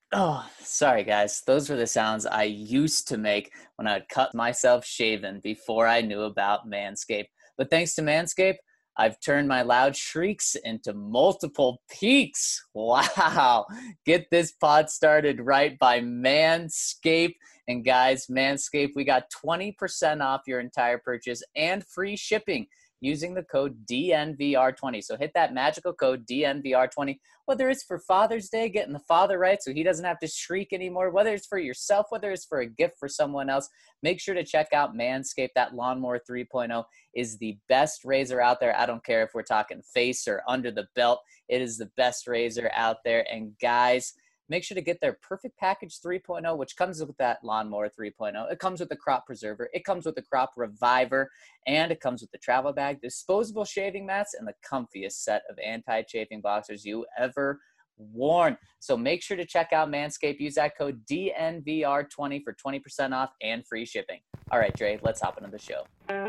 Oh, sorry guys. Those were the sounds I used to make when I'd cut myself shaven before I knew about Manscaped. But thanks to Manscaped, I've turned my loud shrieks into multiple peaks. Wow. Get this pod started right by Manscaped. And guys, Manscaped, we got 20% off your entire purchase and free shipping using the code DNVR20. So hit that magical code DNVR20, whether it's for Father's Day, getting the father right so he doesn't have to shriek anymore, whether it's for yourself, whether it's for a gift for someone else. Make sure to check out Manscaped. That Lawnmower 3.0 is the best razor out there. I don't care if we're talking face or under the belt. It is the best razor out there. And guys, make sure to get their Perfect Package 3.0, which comes with that Lawnmower 3.0. It comes with the Crop Preserver. It comes with the Crop Reviver. And it comes with the travel bag, disposable shaving mats, and the comfiest set of anti-chafing boxers you ever worn. So make sure to check out Manscaped. Use that code DNVR20 for 20% off and free shipping. All right, Dre, let's hop into the show.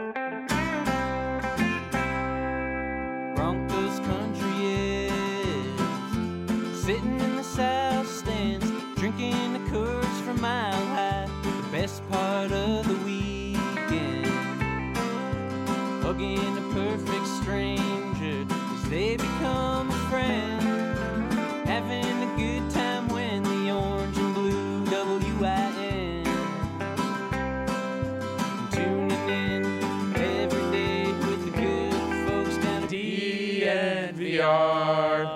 Broncos country is sitting in the south stands, drinking the Coors from Mile High. The best part of the weekend, hugging a perfect stranger as they become a friend, having a good time when the orange and blue WIN, tuning in every day with the good folks down at DNVR.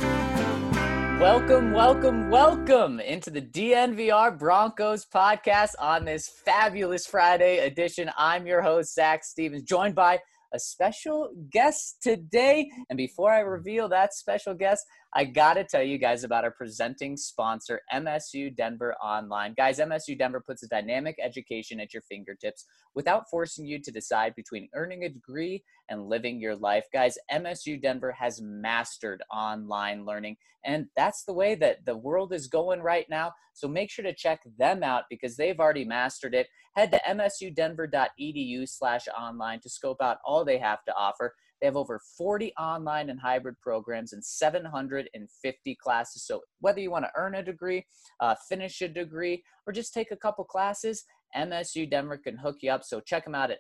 Welcome into the DNVR Broncos podcast on this fabulous Friday edition. I'm your host, Zach Stevens, joined by a special guest today. And before I reveal that special guest, I got to tell you guys about our presenting sponsor, MSU Denver Online. Guys, MSU Denver puts a dynamic education at your fingertips without forcing you to decide between earning a degree and living your life. Guys, MSU Denver has mastered online learning, and that's the way that the world is going right now. So make sure to check them out because they've already mastered it. Head to msudenver.edu/online to scope out all they have to offer. They have over 40 online and hybrid programs and 750 classes. So whether you want to earn a degree, finish a degree, or just take a couple classes, MSU Denver can hook you up. So check them out at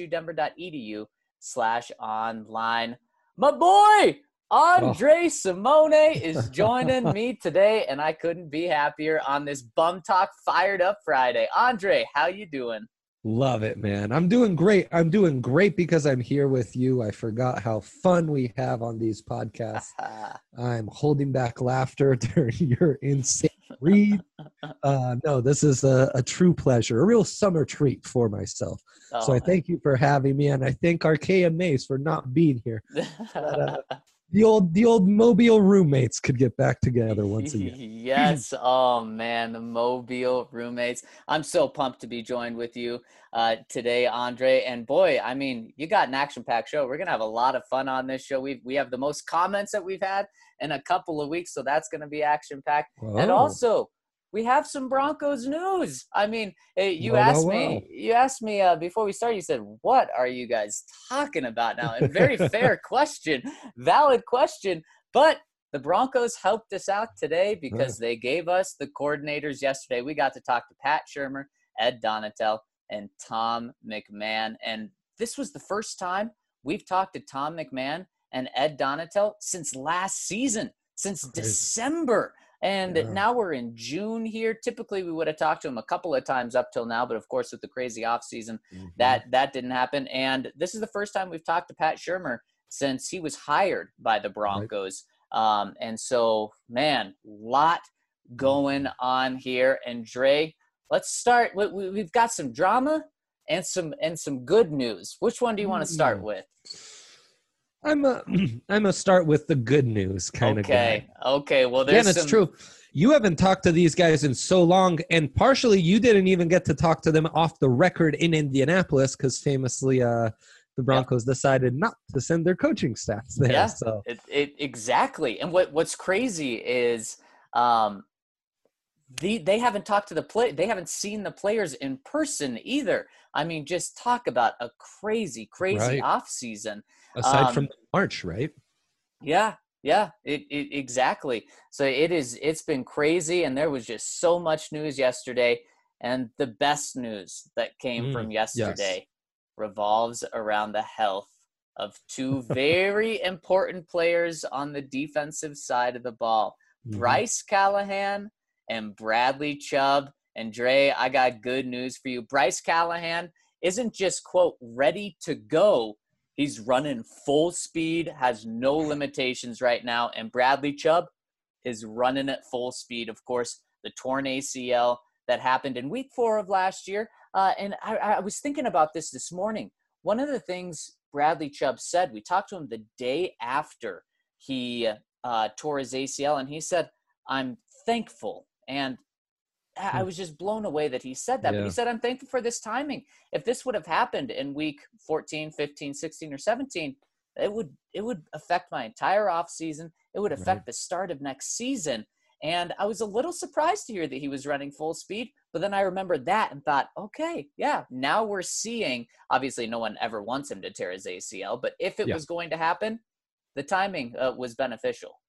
msudenver.edu/online. My boy, Andre Simone is joining me today, and I couldn't be happier on this Bum Talk Fired Up Friday. Andre, how you doing? Love it, man. I'm doing great. I'm doing great because I'm here with you. I forgot how fun we have on these podcasts. I'm holding back laughter during your insane read. No, this is a true pleasure, a real summer treat for myself. So I thank you for having me, and I thank Archaea Mace for not being here. But, the old Mobile roommates could get back together once again. Yes. Oh, man, the Mobile roommates. I'm so pumped to be joined with you today, Andre. And boy, I mean, you got an action-packed show. We're going to have a lot of fun on this show. We have the most comments that we've had in a couple of weeks, so that's going to be action-packed. Whoa. And also, we have some Broncos news. I mean, you asked me before we started, you said, what are you guys talking about now? And very fair question, valid question. But the Broncos helped us out today because they gave us the coordinators yesterday. We got to talk to Pat Shurmur, Ed Donatel, and Tom McMahon. And this was the first time we've talked to Tom McMahon and Ed Donatel since last season, since December. And now we're in June here. Typically, we would have talked to him a couple of times up till now, but of course, with the crazy offseason, that didn't happen. And this is the first time we've talked to Pat Shurmur since he was hired by the Broncos. And so, man, lot going on here. And Dre, let's start. We've got some drama and some good news. Which one do you want to start with? I'm a start with the good news kind of guy. Okay. Well, it's true. You haven't talked to these guys in so long, and partially you didn't even get to talk to them off the record in Indianapolis because famously the Broncos decided not to send their coaching staffs there. Yeah, so exactly. And what's crazy is they haven't talked to they haven't seen the players in person either. I mean, just talk about a crazy right. off season. Aside from March, right? Yeah. Yeah, exactly. So it's been crazy, and there was just so much news yesterday. And the best news that came from Yes. yesterday revolves around the health of two very important players on the defensive side of the ball, Hmm. Bryce Callahan and Bradley Chubb. And Dre, I got good news for you. Bryce Callahan isn't just, quote, ready to go. He's running full speed, has no limitations right now. And Bradley Chubb is running at full speed. Of course, the torn ACL that happened in week 4 of last year. And I was thinking about this morning. One of the things Bradley Chubb said, we talked to him the day after he tore his ACL, and he said, I'm thankful. And I was just blown away that he said that. But he Yeah. said, I'm thankful for this timing. If this would have happened in week 14, 15, 16, or 17, it would affect my entire offseason. It would Right. affect the start of next season. And I was a little surprised to hear that he was running full speed. But then I remembered that and thought, okay, yeah, now we're seeing, obviously no one ever wants him to tear his ACL, but if it Yeah. was going to happen, the timing was beneficial.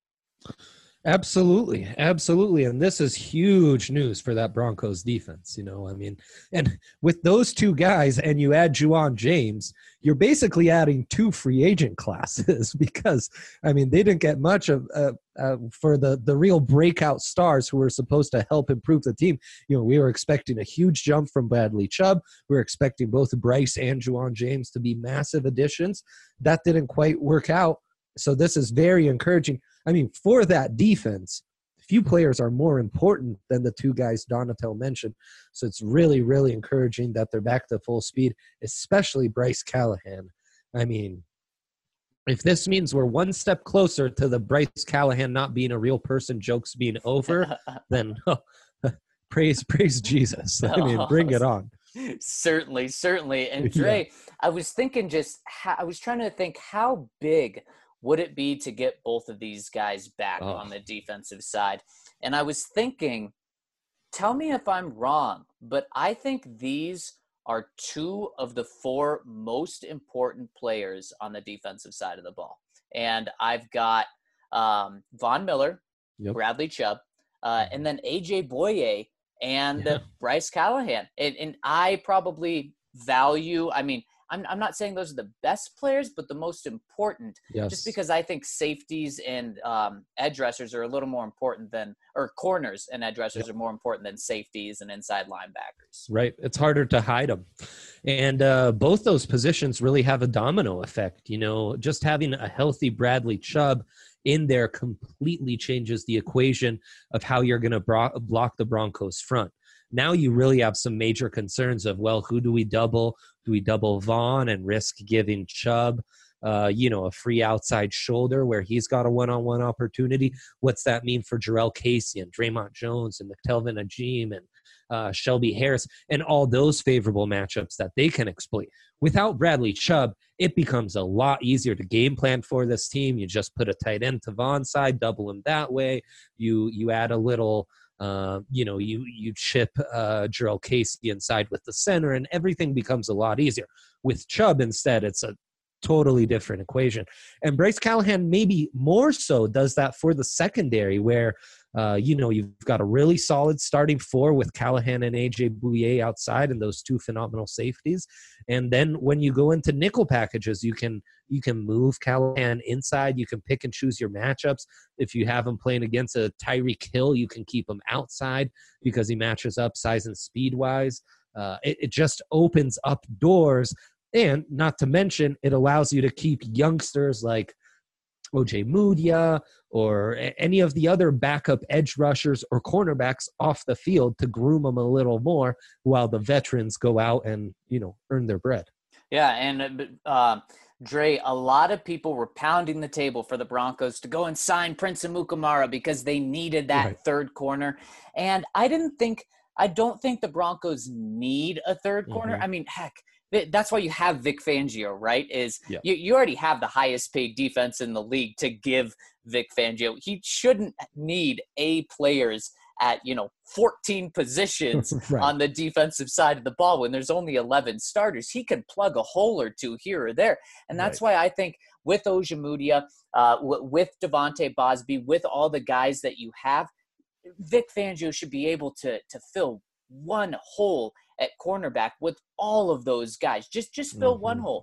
Absolutely, absolutely, and this is huge news for that Broncos defense. I mean, and with those two guys, and you add Juwan James, you're basically adding 2 free agent classes because, I mean, they didn't get much of for the real breakout stars who were supposed to help improve the team. We were expecting a huge jump from Bradley Chubb. We were expecting both Bryce and Juwan James to be massive additions. That didn't quite work out. So this is very encouraging. I mean, for that defense, few players are more important than the 2 guys Donatel mentioned. So it's really, really encouraging that they're back to full speed, especially Bryce Callahan. I mean, if this means we're one step closer to the Bryce Callahan not being a real person jokes being over, then praise Jesus. I mean, bring it on. Certainly. And Dre, I was thinking I was trying to think how big would it be to get both of these guys back on the defensive side? And I was thinking, tell me if I'm wrong, but I think these are 2 of the 4 most important players on the defensive side of the ball. And I've got Von Miller, Bradley Chubb, and then AJ Boye and Bryce Callahan. And I probably value, I mean, I'm not saying those are the best players, but the most important, just because I think safeties and edge rushers are a little more important or corners and edge rushers are more important than safeties and inside linebackers. Right. It's harder to hide them. And both those positions really have a domino effect. Just having a healthy Bradley Chubb in there completely changes the equation of how you're going to block the Broncos front. Now you really have some major concerns of, well, who do we double? Do we double Vaughn and risk giving Chubb, a free outside shoulder where he's got a one-on-one opportunity? What's that mean for Jarrell Casey and Draymond Jones and McTelvin Ajim and Shelby Harris and all those favorable matchups that they can exploit? Without Bradley Chubb, it becomes a lot easier to game plan for this team. You just put a tight end to Vaughn's side, double him that way. You add a little you chip Jarrell Casey inside with the center, and everything becomes a lot easier. With Chubb instead, it's a totally different equation. And Bryce Callahan maybe more so does that for the secondary where, you've got a really solid starting 4 with Callahan and AJ Bouye outside and those 2 phenomenal safeties. And then when you go into nickel packages, you can move Callahan inside. You can pick and choose your matchups. If you have him playing against a Tyreek Hill, you can keep him outside because he matches up size and speed-wise. It just opens up doors. And not to mention, it allows you to keep youngsters like OJ Mudia or any of the other backup edge rushers or cornerbacks off the field to groom them a little more while the veterans go out and, earn their bread. Yeah, and Dre, a lot of people were pounding the table for the Broncos to go and sign Prince Amukamara because they needed that third corner. And I don't think the Broncos need a third corner. I mean, heck, that's why you have Vic Fangio, right? You already have the highest paid defense in the league to give Vic Fangio. He shouldn't need A players at 14 positions Right. on the defensive side of the ball when there's only 11 starters. He can plug a hole or two here or there, and that's why I think with Ojemudia, with Devontae Bosby, with all the guys that you have, Vic Fangio should be able to fill one hole at cornerback with all of those guys. Just fill one hole.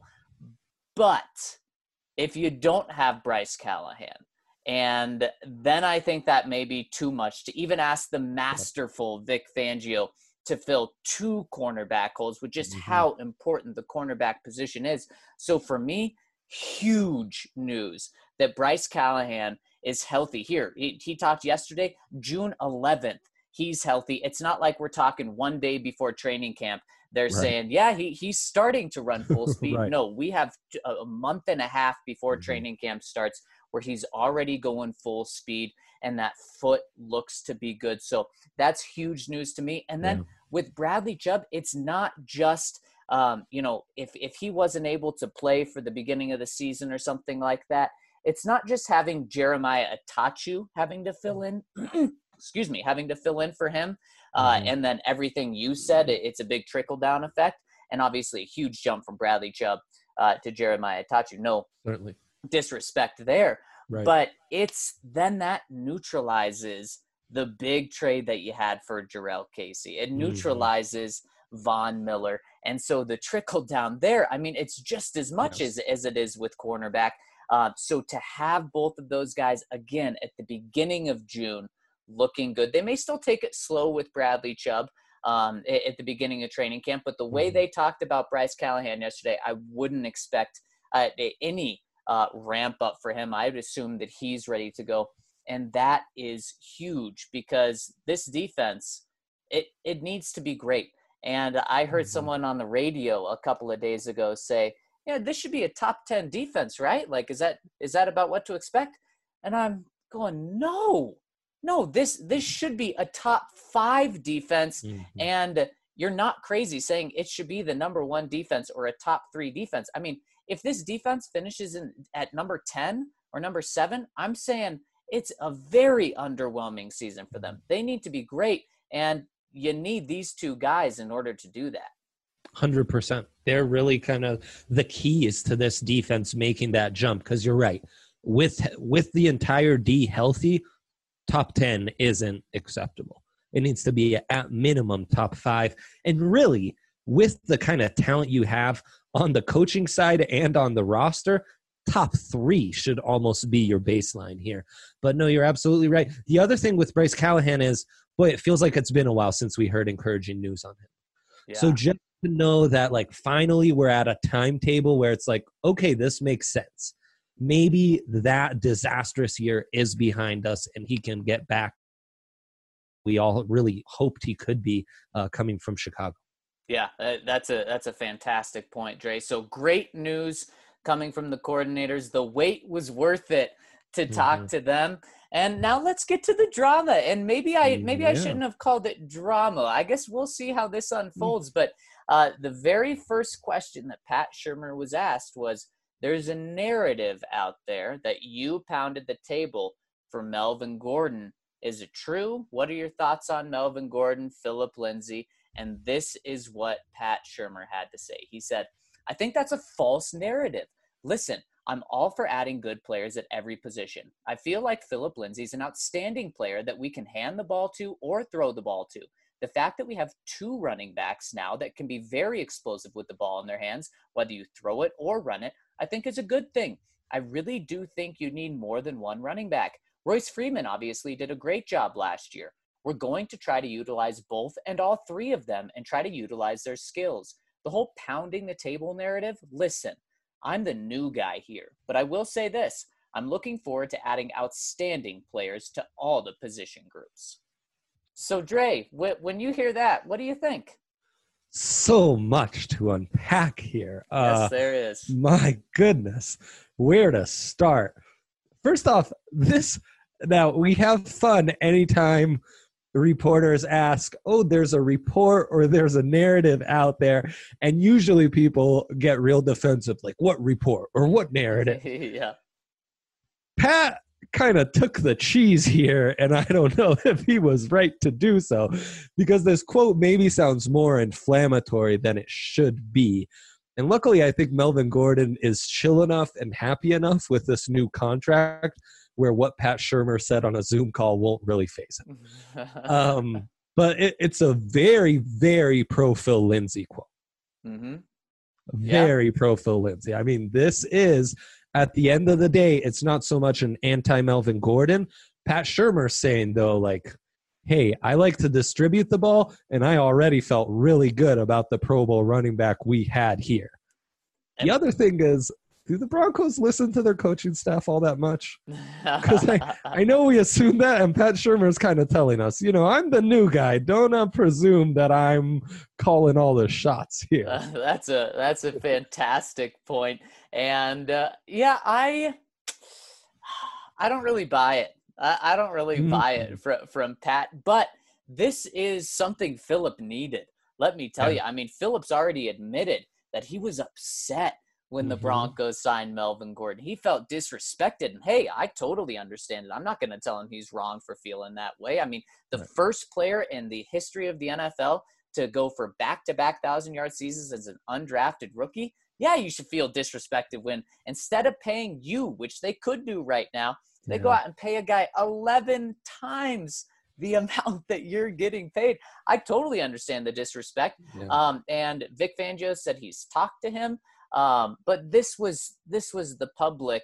But if you don't have Bryce Callahan, and then I think that may be too much to even ask the masterful Vic Fangio to fill two cornerback holes with just how important the cornerback position is. So for me, huge news that Bryce Callahan is healthy here. He talked yesterday, June 11th. He's healthy. It's not like we're talking one day before training camp. They're saying, he's starting to run full speed. No, we have a month and a half before training camp starts where he's already going full speed, and that foot looks to be good. So that's huge news to me. And then with Bradley Chubb, it's not just, if he wasn't able to play for the beginning of the season or something like that, it's not just having Jeremiah Attachu having to fill in, having to fill in for him. And then everything you said, it's a big trickle-down effect, and obviously a huge jump from Bradley Chubb to Jeremiah Attachu. No disrespect there, but it's then that neutralizes the big trade that you had for Jarrell Casey. It neutralizes Von Miller, and so the trickle-down there, I mean, it's just as much as it is with cornerback. So to have both of those guys, again, at the beginning of June, looking good. They may still take it slow with Bradley Chubb at the beginning of training camp, but the way they talked about Bryce Callahan yesterday, I wouldn't expect any ramp up for him. I would assume that he's ready to go, and that is huge because this defense, it needs to be great. And I heard someone on the radio a couple of days ago say, this should be a top 10 defense, right? Like, is that about what to expect? And I'm going, no, this should be a top 5 defense. And you're not crazy saying it should be the number 1 defense or a top 3 defense. I mean, if this defense finishes at number 10 or number 7, I'm saying it's a very underwhelming season for them. They need to be great, and you need these two guys in order to do that. 100%. They're really kind of the keys to this defense making that jump, because you're right. With the entire D healthy, top 10 isn't acceptable. It needs to be at minimum top 5. And really, with the kind of talent you have on the coaching side and on the roster, top 3 should almost be your baseline here. But no, you're absolutely right. The other thing with Bryce Callahan is, boy, it feels like it's been a while since we heard encouraging news on him. Yeah. So just to know that, like, finally we're at a timetable where it's like, okay, this makes sense. Maybe that disastrous year is behind us and he can get back. We all really hoped he could be coming from Chicago. Yeah, that's a fantastic point, Dre. So great news coming from the coordinators. The wait was worth it to talk to them. And now let's get to the drama. And maybe I shouldn't have called it drama. I guess we'll see how this unfolds. But the very first question that Pat Shurmur was asked was, there's a narrative out there that you pounded the table for Melvin Gordon. Is it true? What are your thoughts on Melvin Gordon, Phillip Lindsay? And this is what Pat Shurmur had to say. He said, I think that's a false narrative. Listen, I'm all for adding good players at every position. I feel like Phillip Lindsay is an outstanding player that we can hand the ball to or throw the ball to. The fact that we have 2 running backs now that can be very explosive with the ball in their hands, whether you throw it or run it, I think is a good thing. I really do think you need more than 1 running back. Royce Freeman obviously did a great job last year. We're going to try to utilize both and all 3 of them and try to utilize their skills. The whole pounding the table narrative, listen, I'm the new guy here, but I will say this. I'm looking forward to adding outstanding players to all the position groups. So, Dre, when you hear that, what do you think? So much to unpack here. Yes, there is. My goodness. Where to start? First off, now we have fun anytime reporters ask, oh, there's a report or there's a narrative out there. And usually people get real defensive, like, what report or what narrative? Yeah. Pat kind of took the cheese here, and I don't know if he was right to do so, because this quote maybe sounds more inflammatory than it should be. And luckily, I think Melvin Gordon is chill enough and happy enough with this new contract where what Pat Shurmur said on a Zoom call won't really faze him. But it's a very, very pro Phil Lindsay quote. Mm-hmm. Very pro Phil Lindsay. I mean, this is, at the end of the day, it's not so much an anti-Melvin Gordon. Pat Shurmur saying, though, like, hey, I like to distribute the ball, and I already felt really good about the Pro Bowl running back we had here. The other thing is, do the Broncos listen to their coaching staff all that much? Because I know we assume that, and Pat Shurmur is kind of telling us, I'm the new guy. Don't presume that I'm calling all the shots here. That's a fantastic point. And I don't really buy it. I don't really buy it from Pat. But this is something Phillip needed. Let me tell you. I mean, Phillip's already admitted that he was upset when the Broncos signed Melvin Gordon. He felt disrespected. And, hey, I totally understand it. I'm not going to tell him he's wrong for feeling that way. I mean, the first player in the history of the NFL to go for back-to-back 1,000-yard seasons as an undrafted rookie, yeah, you should feel disrespected when instead of paying you, which they could do right now, they go out and pay a guy 11 times the amount that you're getting paid. I totally understand the disrespect. Yeah. And Vic Fangio said he's talked to him. But this was the public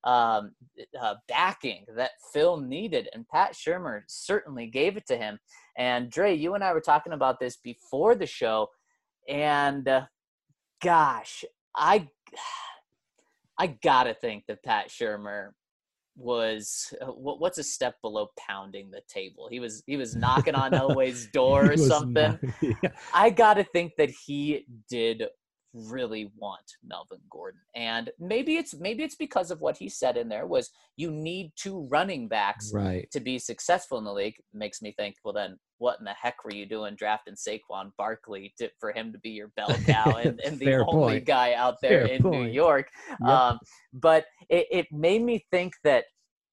backing that Phil needed, and Pat Shurmur certainly gave it to him. And Dre, you and I were talking about this before the show, and gosh, I gotta think that Pat Shurmur was what's a step below pounding the table. He was knocking on Elway's door or something. I gotta think that he did really want Melvin Gordon, and maybe it's because of what he said in there was you need two running backs to be successful in the league. Makes me think, well, then what in the heck were you doing drafting Saquon Barkley for him to be your bell cow and the only guy out there in New York? Yep. But it made me think that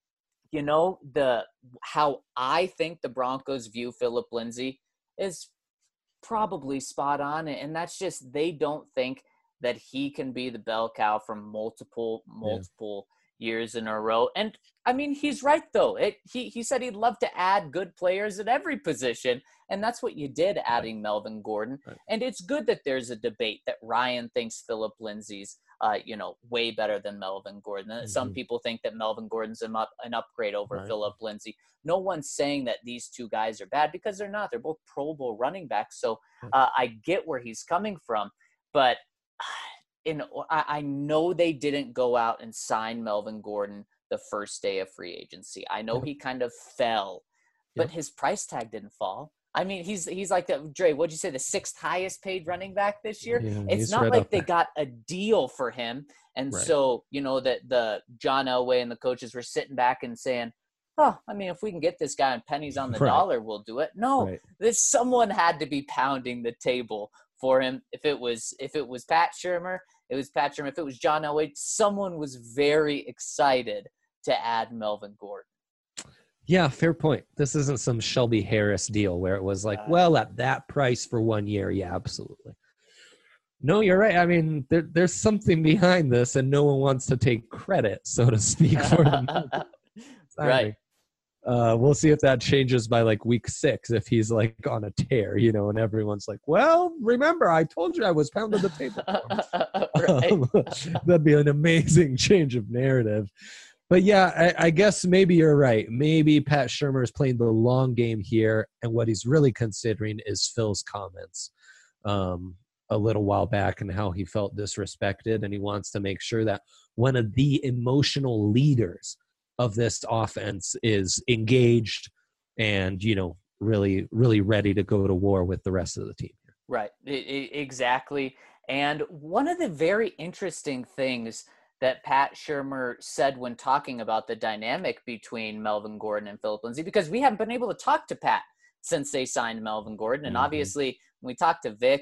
how I think the Broncos view Phillip Lindsay is probably spot on, and that's just they don't think that he can be the bell cow from multiple years in a row. And I mean, he's right though. He said he'd love to add good players at every position, and that's what you did adding Melvin Gordon. And it's good that there's a debate that Ryan thinks Phillip Lindsay's way better than Melvin Gordon. Some people think that Melvin Gordon's an upgrade over Phillip Lindsay. No one's saying that these two guys are bad, because they're not. They're both Pro Bowl running backs. So I get where he's coming from. But I know they didn't go out and sign Melvin Gordon the first day of free agency. I know he kind of fell, but his price tag didn't fall. I mean, he's like Dre, what'd you say, the sixth highest paid running back this year? Yeah, it's not like they got a deal for him. And so, that the John Elway and the coaches were sitting back and saying, oh, I mean, if we can get this guy on pennies on the dollar, we'll do it. No, someone had to be pounding the table for him. If it was Pat Shurmur, it was Pat Shurmur. If it was John Elway, someone was very excited to add Melvin Gordon. Yeah, fair point. This isn't some Shelby Harris deal where it was like, well, at that price for 1 year, yeah, absolutely. No, you're right. I mean, there's something behind this, and no one wants to take credit, so to speak, for him. Right. We'll see if that changes by like week 6, if he's like on a tear, and everyone's like, well, remember, I told you I was pounding the table. That'd be an amazing change of narrative. But yeah, I guess maybe you're right. Maybe Pat Shurmur is playing the long game here, and what he's really considering is Phil's comments a little while back and how he felt disrespected, and he wants to make sure that one of the emotional leaders of this offense is engaged and, really, really ready to go to war with the rest of the team. Right, exactly. And one of the very interesting things that Pat Shurmur said when talking about the dynamic between Melvin Gordon and Phillip Lindsay, because we haven't been able to talk to Pat since they signed Melvin Gordon. And obviously, when we talked to Vic,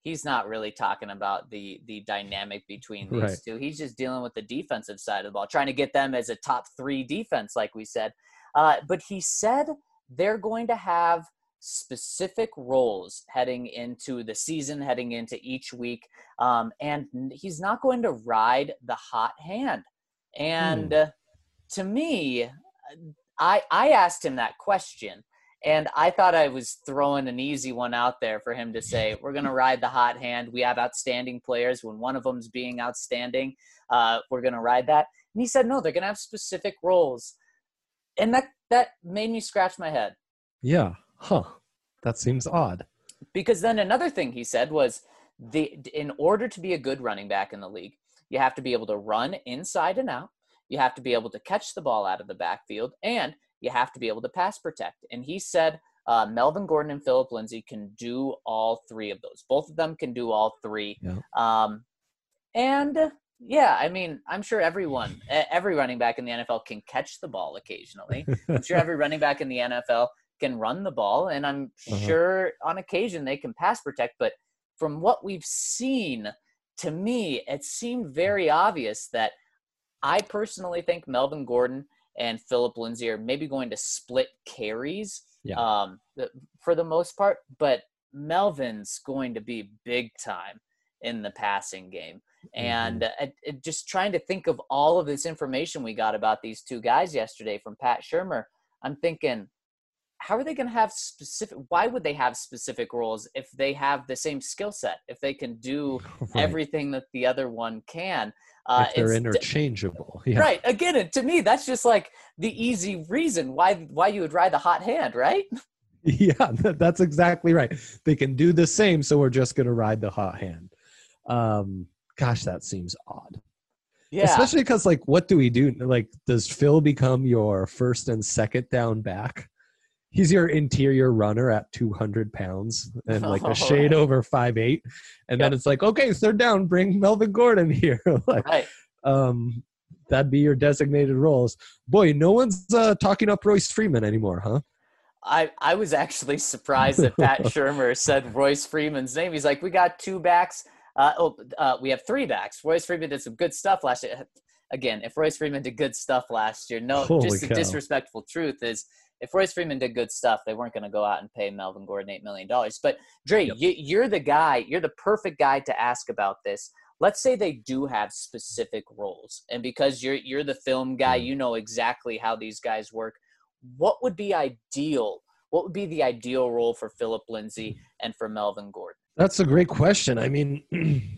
he's not really talking about the dynamic between these Right. two. He's just dealing with the defensive side of the ball, trying to get them as a top 3 defense, like we said. But he said they're going to have specific roles heading into the season, heading into each week. And he's not going to ride the hot hand. And to me, I asked him that question, and I thought I was throwing an easy one out there for him to say, we're going to ride the hot hand. We have outstanding players. When one of them's being outstanding, we're going to ride that. And he said, no, they're going to have specific roles. And that made me scratch my head. Yeah. Huh. That seems odd. Because then another thing he said was, in order to be a good running back in the league, you have to be able to run inside and out. You have to be able to catch the ball out of the backfield, and you have to be able to pass protect. And he said Melvin Gordon and Phillip Lindsay can do all 3 of those. Both of them can do all 3. Yeah. And yeah, I mean, I'm sure every running back in the NFL can catch the ball occasionally. I'm sure every running back in the NFL can run the ball, and I'm sure on occasion they can pass protect. But from what we've seen, to me, it seemed very obvious that I personally think Melvin Gordon and Phillip Lindsay are maybe going to split carries for the most part, but Melvin's going to be big time in the passing game. And just trying to think of all of this information we got about these 2 guys yesterday from Pat Shurmur, I'm thinking, how are they going to have why would they have specific roles if they have the same skill set, if they can do everything that the other one can? If they're interchangeable. Yeah. Right. Again, to me, that's just like the easy reason why you would ride the hot hand, right? Yeah, that's exactly right. They can do the same, so we're just going to ride the hot hand. Gosh, that seems odd. Yeah. Especially because, like, what do we do? Like, does Phil become your first and second down back? He's your interior runner at 200 pounds and like a shade over 5'8". And then it's like, okay, third down, bring Melvin Gordon here. Like, that'd be your designated roles. Boy, no one's talking up Royce Freeman anymore, huh? I was surprised that Pat Shurmur said Royce Freeman's name. He's like, we got 2 backs. We have 3 backs. Royce Freeman did some good stuff last year. Again, if Royce Freeman did good stuff last year, the disrespectful truth is, if Royce Freeman did good stuff, they weren't going to go out and pay Melvin Gordon $8 million. But Dre, you're the guy, you're the perfect guy to ask about this. Let's say they do have specific roles, and because you're the film guy, you know exactly how these guys work. What would be ideal? What would be the ideal role for Phillip Lindsay and for Melvin Gordon? That's a great question. I mean,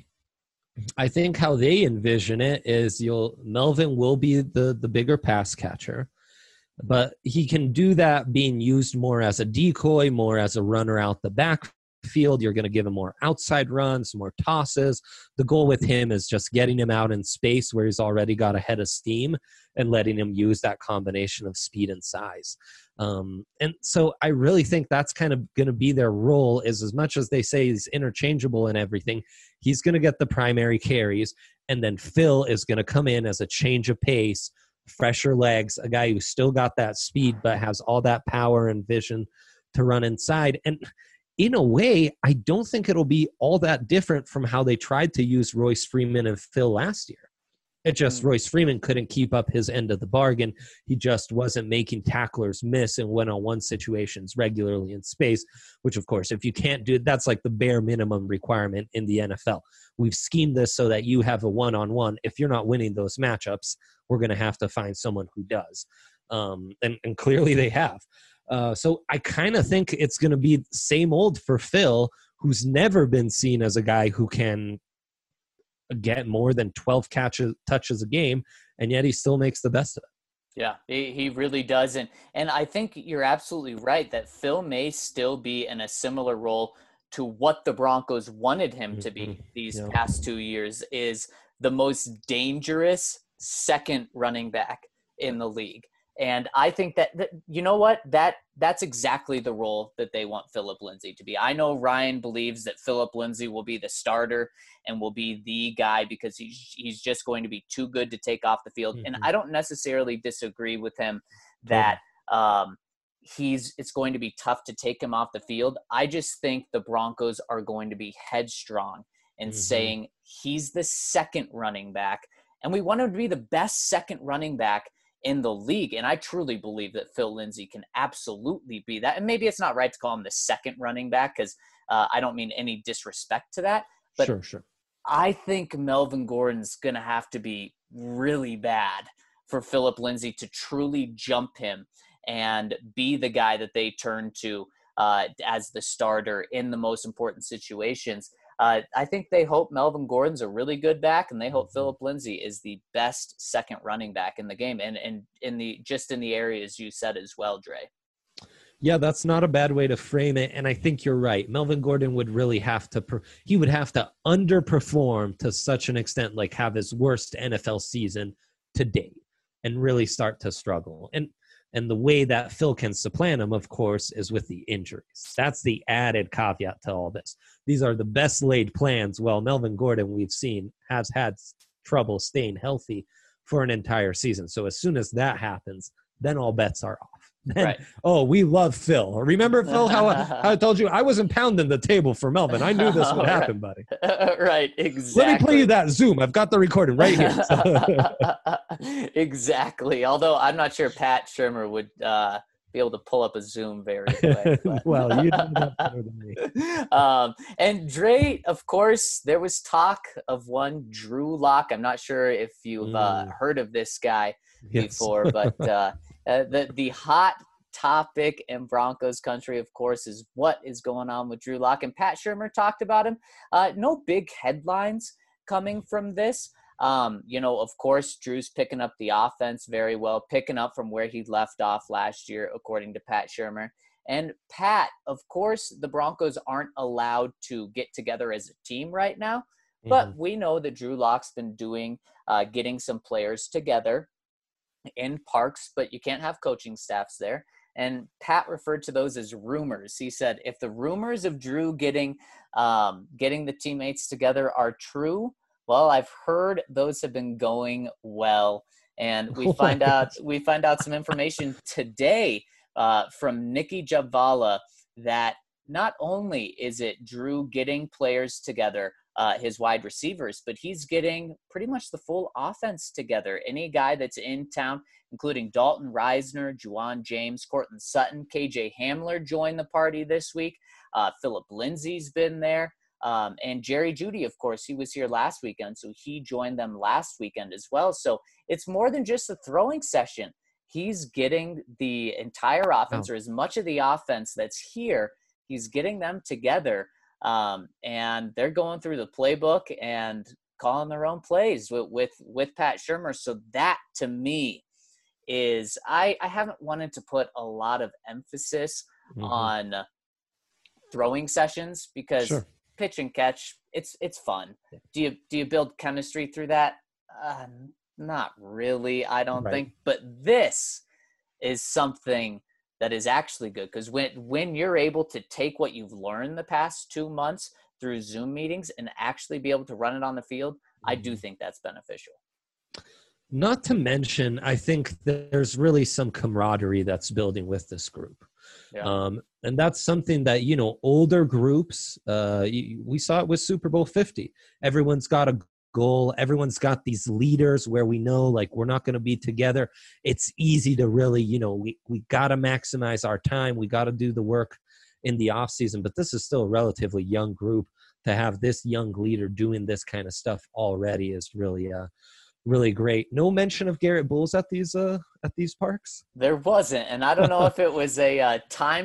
I think how they envision it is Melvin will be the bigger pass catcher. But he can do that being used more as a decoy, more as a runner out the backfield. You're going to give him more outside runs, more tosses. The goal with him is just getting him out in space where he's already got a head of steam and letting him use that combination of speed and size. And so I really think that's kind of going to be their role, is as much as they say he's interchangeable and everything, he's going to get the primary carries. And then Phil is going to come in as a change of pace, fresher legs, a guy who's still got that speed but has all that power and vision to run inside. And in a way, I don't think it'll be all that different from how they tried to use Royce Freeman and Phil last year. It just Royce Freeman couldn't keep up his end of the bargain. He just wasn't making tacklers miss in one-on-one situations regularly in space, which, of course, if you can't do it, that's like the bare minimum requirement in the NFL. We've schemed this so that you have a one-on-one. If you're not winning those matchups, we're going to have to find someone who does. And clearly they have. So I kind of think it's going to be same old for Phil, who's never been seen as a guy who can get more than 12 touches a game, and yet he still makes the best of it. Yeah, he really does. And I think you're absolutely right that Phil may still be in a similar role to what the Broncos wanted him to be these past 2 years, is the most dangerous second running back in the league. And I think that you know what? That's exactly the role that they want Phillip Lindsay to be. I know Ryan believes that Phillip Lindsay will be the starter and will be the guy because he's just going to be too good to take off the field. And I don't necessarily disagree with him that it's going to be tough to take him off the field. I just think the Broncos are going to be headstrong in saying he's the second running back, and we want him to be the best second running back in the league. And I truly believe that Phil Lindsay can absolutely be that. And maybe it's not right to call him the second running back, because I don't mean any disrespect to that. But Sure. I think Melvin Gordon's going to have to be really bad for Philip Lindsay to truly jump him and be the guy that they turn to as the starter in the most important situations. I think they hope Melvin Gordon's a really good back, and they hope Philip Lindsay is the best second running back in the game, and in the areas you said as well, Dre. Yeah, that's not a bad way to frame it. And I think you're right. Melvin Gordon would really have to he would have to underperform to such an extent, like have his worst NFL season to date and really start to struggle. And the way that Phil can supplant him, of course, is with the injuries. That's the added caveat to all this. These are the best laid plans. Well, Melvin Gordon, we've seen, has had trouble staying healthy for an entire season. So as soon as that happens, then all bets are off. Then, Right. Oh, we love Phil. Remember, Phil, how I told you I wasn't pounding the table for Melvin. I knew this would happen, buddy. Right, exactly. Let me play you that Zoom. I've got the recording right here. So. Exactly. Although I'm not sure Pat Shurmur would be able to pull up a Zoom very quick. Well, you know that better than me. And Dre, of course, there was talk of one Drew Lock. I'm not sure if you've heard of this guy before, but the hot topic in Broncos country, of course, is what is going on with Drew Lock. And Pat Shurmur talked about him. No big headlines coming from this. Of course, Drew's picking up the offense very well, picking up from where he left off last year, according to Pat Shurmur. And Pat, of course, the Broncos aren't allowed to get together as a team right now, but we know that Drew Lock's been getting some players together in parks, but you can't have coaching staffs there. And Pat referred to those as rumors. He said, if the rumors of Drew getting the teammates together are true, well, I've heard those have been going well. And we find out some information today from Nikki Javala that not only is it Drew getting players together, his wide receivers, but he's getting pretty much the full offense together. Any guy that's in town, including Dalton Reisner, Juwan James, Courtland Sutton, KJ Hamler joined the party this week. Philip Lindsay's been there. And Jerry Jeudy, of course, he was here last weekend, so he joined them last weekend as well. So it's more than just a throwing session. He's getting the entire offense, or as much of the offense that's here, he's getting them together. And they're going through the playbook and calling their own plays with Pat Shurmur. So that, to me, is I haven't wanted to put a lot of emphasis on throwing sessions because pitch and catch, it's fun. Do you build chemistry through that? Not really, I don't think. But this is something that is actually good, because when you're able to take what you've learned the past 2 months through Zoom meetings and actually be able to run it on the field, I do think that's beneficial. Not to mention, I think there's really some camaraderie that's building with this group. Yeah. And that's something that, older groups, we saw it with Super Bowl 50. Everyone's got a goal. Everyone's got these leaders where we know, like, we're not going to be together. It's easy to really, we got to maximize our time. We got to do the work in the off season, but this is still a relatively young group. To have this young leader doing this kind of stuff already is really, really great. No mention of Garrett Bowles at these parks. There wasn't, and I don't know if it was a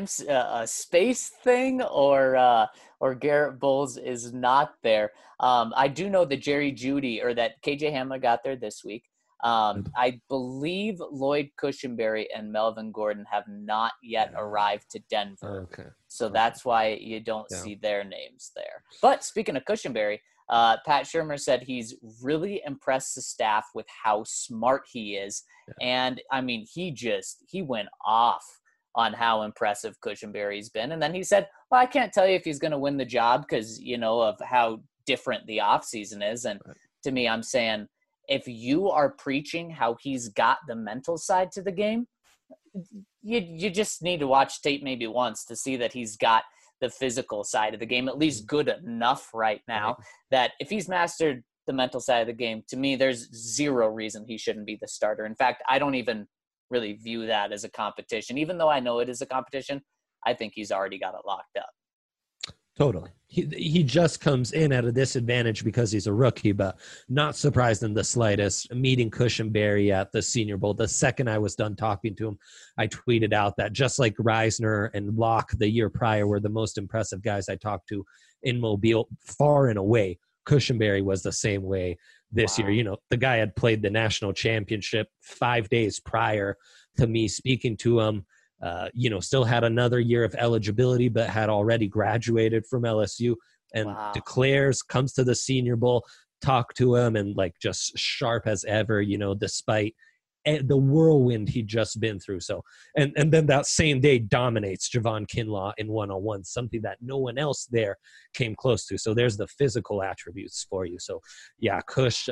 space thing or Garrett Bowles is not there. I do know that Jerry Jeudy, or that KJ Hamler, got there this week. I believe Lloyd Cushenberry and Melvin Gordon have not yet arrived to Denver. So that's why you don't see their names there. But speaking of Cushenberry, Pat Shurmur said he's really impressed the staff with how smart he is. And, I mean, he went off on how impressive Cushenberry's been. And then he said, well, I can't tell you if he's going to win the job because, of how different the offseason is. And to me, I'm saying, if you are preaching how he's got the mental side to the game, you just need to watch tape maybe once to see that he's got the physical side of the game, at least good enough right now, that if he's mastered the mental side of the game, to me, there's zero reason he shouldn't be the starter. In fact, I don't even really view that as a competition. Even though I know it is a competition, I think he's already got it locked up. Totally. He just comes in at a disadvantage because he's a rookie, but not surprised in the slightest. Meeting Cushenberry at the Senior Bowl, the second I was done talking to him, I tweeted out that just like Reisner and Locke the year prior were the most impressive guys I talked to in Mobile, far and away, Cushenberry was the same way this year. You know, the guy had played the national championship 5 days prior to me speaking to him. You know, still had another year of eligibility, but had already graduated from LSU and declares, comes to the Senior Bowl, talk to him, and like just sharp as ever, you know, despite the whirlwind he'd just been through. So, and then that same day dominates Javon Kinlaw in one-on-one, something that no one else there came close to. So there's the physical attributes for you. So yeah, Cush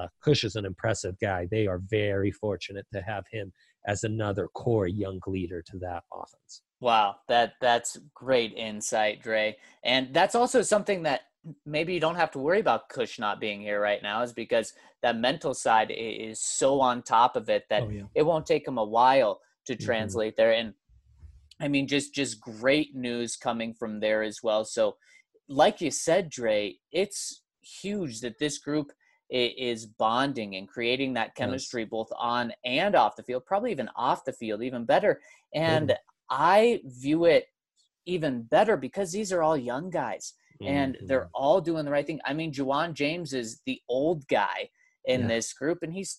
is an impressive guy. They are very fortunate to have him as another core young leader to that offense. Wow, that's great insight, Dre. And that's also something that maybe you don't have to worry about Cush not being here right now, is because that mental side is so on top of it that it won't take him a while to translate there. And I mean, just great news coming from there as well. So like you said, Dre, it's huge that this group is bonding and creating that chemistry both on and off the field, probably even off the field, even better. And I view it even better because these are all young guys and they're all doing the right thing. I mean, Juwan James is the old guy in this group and he's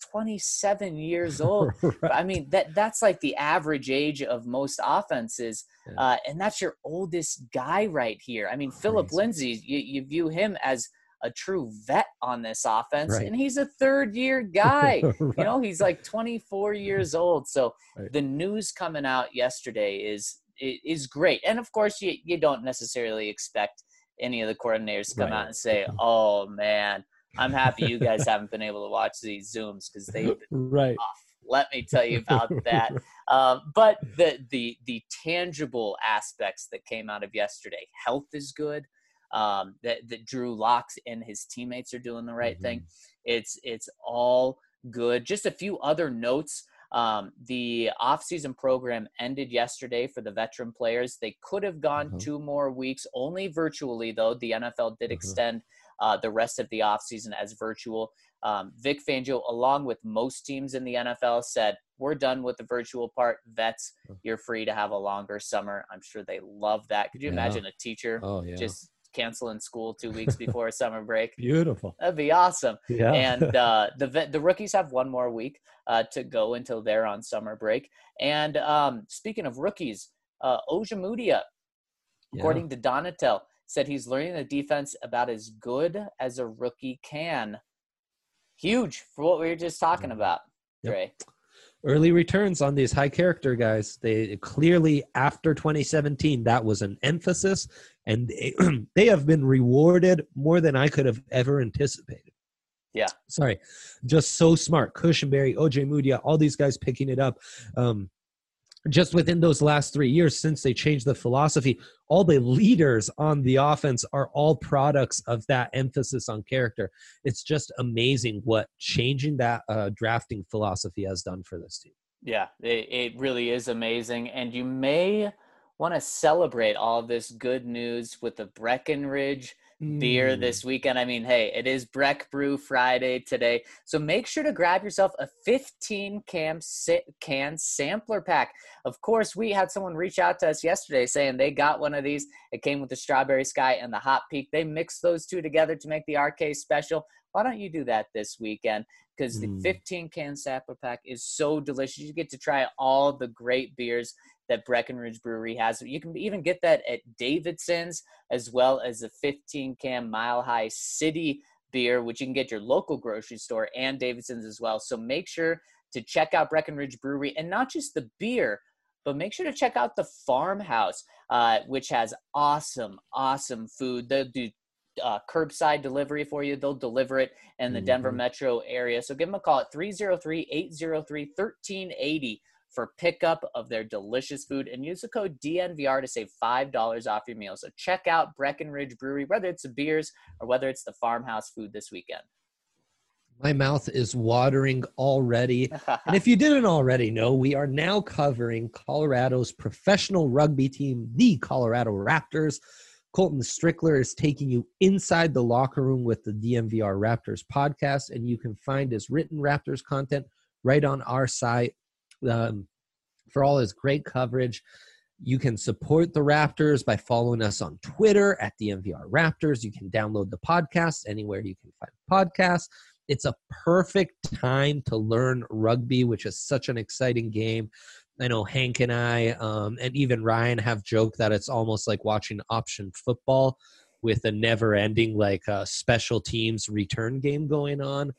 27 years old. I mean, that's like the average age of most offenses. And that's your oldest guy right here. I mean, Philip Lindsay, you view him as a true vet on this offense, and he's a third-year guy. You know, he's like 24 years old. So the news coming out yesterday is great. And of course, you don't necessarily expect any of the coordinators to come out and say, "Oh man, I'm happy you guys haven't been able to watch these Zooms because they've been rough." Let me tell you about that. But the tangible aspects that came out of yesterday, health is good. That Drew Lock and his teammates are doing the right thing. It's all good. Just a few other notes. The offseason program ended yesterday for the veteran players. They could have gone 2 more weeks, only virtually though. The NFL did extend the rest of the offseason as virtual. Vic Fangio, along with most teams in the NFL, said, we're done with the virtual part. Vets, you're free to have a longer summer. I'm sure they love that. Could you imagine a teacher just canceling school 2 weeks before a summer break? Beautiful. That'd be awesome. And the rookies have 1 more week to go until they're on summer break. And speaking of rookies, Ojemudia, according to Donatel, said he's learning the defense about as good as a rookie can. Huge for what we were just talking about, Dre. Early returns on these high character guys. They clearly, after 2017, that was an emphasis, and they have been rewarded more than I could have ever anticipated. Just so smart. Cushenberry, Ojemudia, all these guys picking it up. Just within those last 3 years since they changed the philosophy, all the leaders on the offense are all products of that emphasis on character. It's just amazing what changing that drafting philosophy has done for this team. Yeah, it really is amazing. And you may want to celebrate all of this good news with the Breckenridge beer this weekend. I mean, hey, it is Breck Brew Friday today. So make sure to grab yourself a 15-can sampler pack. Of course, we had someone reach out to us yesterday saying they got one of these. It came with the Strawberry Sky and the Hot Peak. They mixed those two together to make the RK special. Why don't you do that this weekend? Because the 15-can sampler pack is so delicious. You get to try all the great beers that Breckenridge Brewery has. You can even get that at Davidson's, as well as the 15-can Mile High City beer, which you can get your local grocery store and Davidson's as well. So make sure to check out Breckenridge Brewery, and not just the beer, but make sure to check out the Farmhouse, which has awesome food. They'll do curbside delivery for you. They'll deliver it in the Denver metro area. So give them a call at 303-803-1380 for pickup of their delicious food and use the code DNVR to save $5 off your meal. So check out Breckenridge Brewery, whether it's the beers or whether it's the farmhouse food this weekend. My mouth is watering already. And if you didn't already know, we are now covering Colorado's professional rugby team, the Colorado Raptors. Colton Strickler is taking you inside the locker room with the DNVR Raptors podcast, and you can find his written Raptors content right on our site. For all his great coverage, you can support the Raptors by following us on Twitter at DNVR Raptors. You can download the podcast anywhere you can find podcasts. It's a perfect time to learn rugby, which is such an exciting game. I know Hank and I and even Ryan have joked that it's almost like watching option football with a never-ending special teams return game going on.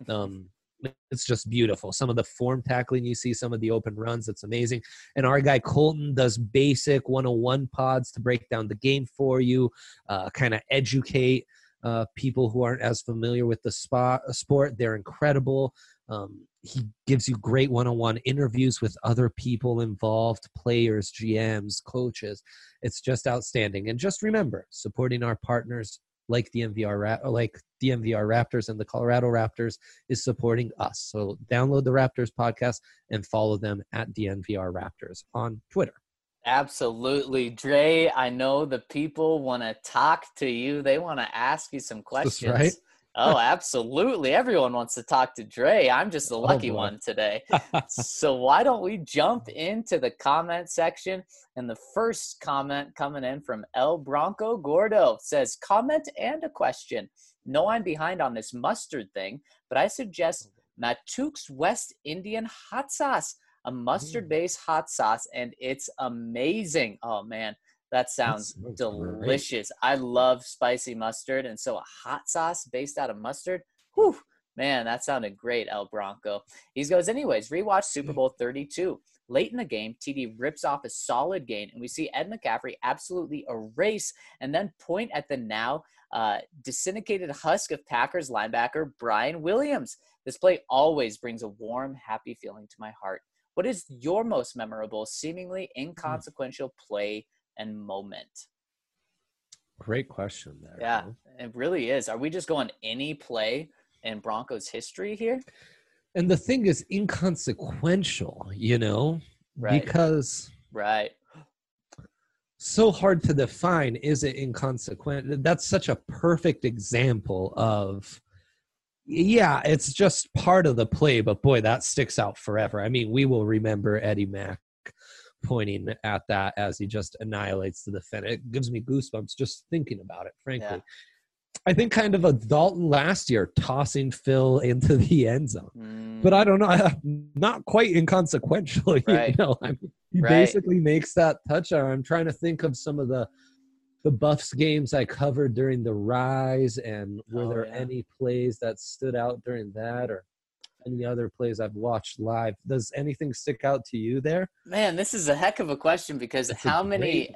It's just beautiful. Some of the form tackling you see, some of the open runs, it's amazing. And our guy Colton does basic 101 pods to break down the game for you, kind of educate people who aren't as familiar with the sport. They're incredible. He gives you great one-on-one interviews with other people involved, players, GMs, coaches. It's just outstanding. And just remember, supporting our partners like DNVR Raptors and the Colorado Raptors is supporting us. So download the Raptors podcast and follow them at DNVR Raptors on Twitter. Absolutely. Dre, I know the people want to talk to you. They want to ask you some questions. That's right. Oh, absolutely. Everyone wants to talk to Dre. I'm just the lucky one today. So why don't we jump into the comment section? And the first comment coming in from El Bronco Gordo says, comment and a question. No, I'm behind on this mustard thing, but I suggest Matuk's West Indian hot sauce, a mustard-based hot sauce, and it's amazing. Oh, man. That sounds delicious. Great. I love spicy mustard, and so a hot sauce based out of mustard, whew, man, that sounded great, El Bronco. He goes, anyways, rewatch Super Bowl 32. Late in the game, TD rips off a solid gain, and we see Ed McCaffrey absolutely erase and then point at the now desyndicated husk of Packers linebacker Brian Williams. This play always brings a warm, happy feeling to my heart. What is your most memorable, seemingly inconsequential play and moment? Great question there. Yeah, it really is. Are we just going any play in Broncos history here? And the thing is inconsequential, right. Because so hard to define. Is it inconsequential? That's such a perfect example of, it's just part of the play, but boy, that sticks out forever. I mean, we will remember Eddie Mack pointing at that as he just annihilates the defender. It gives me goosebumps just thinking about it, frankly. Yeah. I think kind of a Dalton last year tossing Phil into the end zone. But I don't know, not quite inconsequential. Right. He basically makes that touchdown. I'm trying to think of some of the Buffs games I covered during the Rise, and were there any plays that stood out during that, or any other plays I've watched live? Does anything stick out to you there? Man, this is a heck of a question, because how many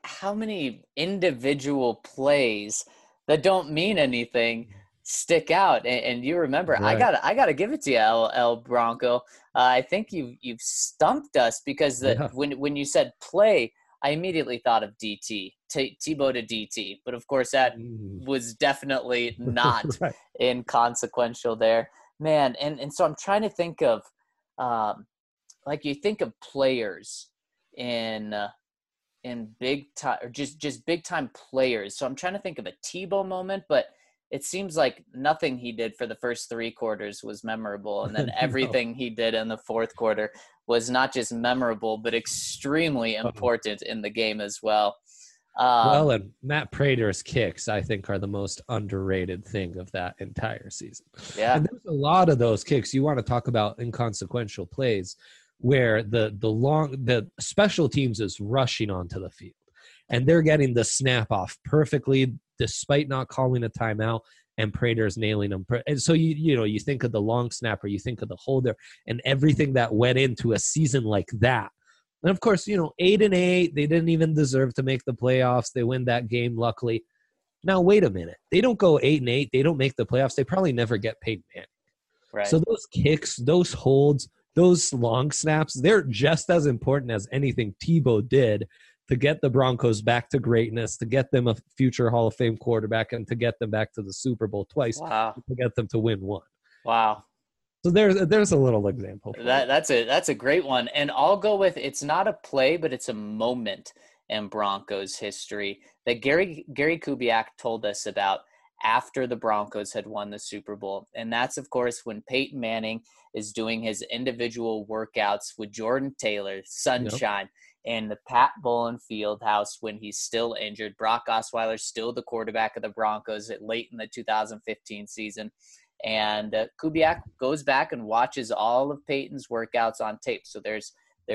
individual plays that don't mean anything stick out? And you remember, right. I gotta give it to you, El Bronco. I think you've stumped us, because when you said play, I immediately thought of DT, Tebow to DT. But of course, that was definitely not right. inconsequential there. Man, and so I'm trying to think of, you think of players in big time, or just big time players. So I'm trying to think of a Tebow moment, but it seems like nothing he did for the first 3 quarters was memorable, and then everything he did in the fourth quarter was not just memorable, but extremely important in the game as well. And Matt Prater's kicks, I think, are the most underrated thing of that entire season. Yeah. And there's a lot of those kicks. You want to talk about inconsequential plays where the special teams is rushing onto the field, and they're getting the snap off perfectly despite not calling a timeout, and Prater's nailing them. And so you think of the long snapper, you think of the holder, and everything that went into a season like that. And of course, 8-8, they didn't even deserve to make the playoffs. They win that game, luckily. Now, wait a minute. They don't go 8-8. They don't make the playoffs. They probably never get paid, man. Right. So those kicks, those holds, those long snaps, they're just as important as anything Tebow did to get the Broncos back to greatness, to get them a future Hall of Fame quarterback, and to get them back to the Super Bowl twice, Wow. to get them to win one. Wow. So there's a little example. That's a great one. And I'll go with, it's not a play, but it's a moment in Broncos history that Gary Kubiak told us about after the Broncos had won the Super Bowl. And that's, of course, when Peyton Manning is doing his individual workouts with Jordan Taylor, Sunshine, in the Pat Bowlen Fieldhouse when he's still injured. Brock Osweiler still the quarterback of the Broncos late in the 2015 season. And Kubiak goes back and watches all of Peyton's workouts on tape. So there's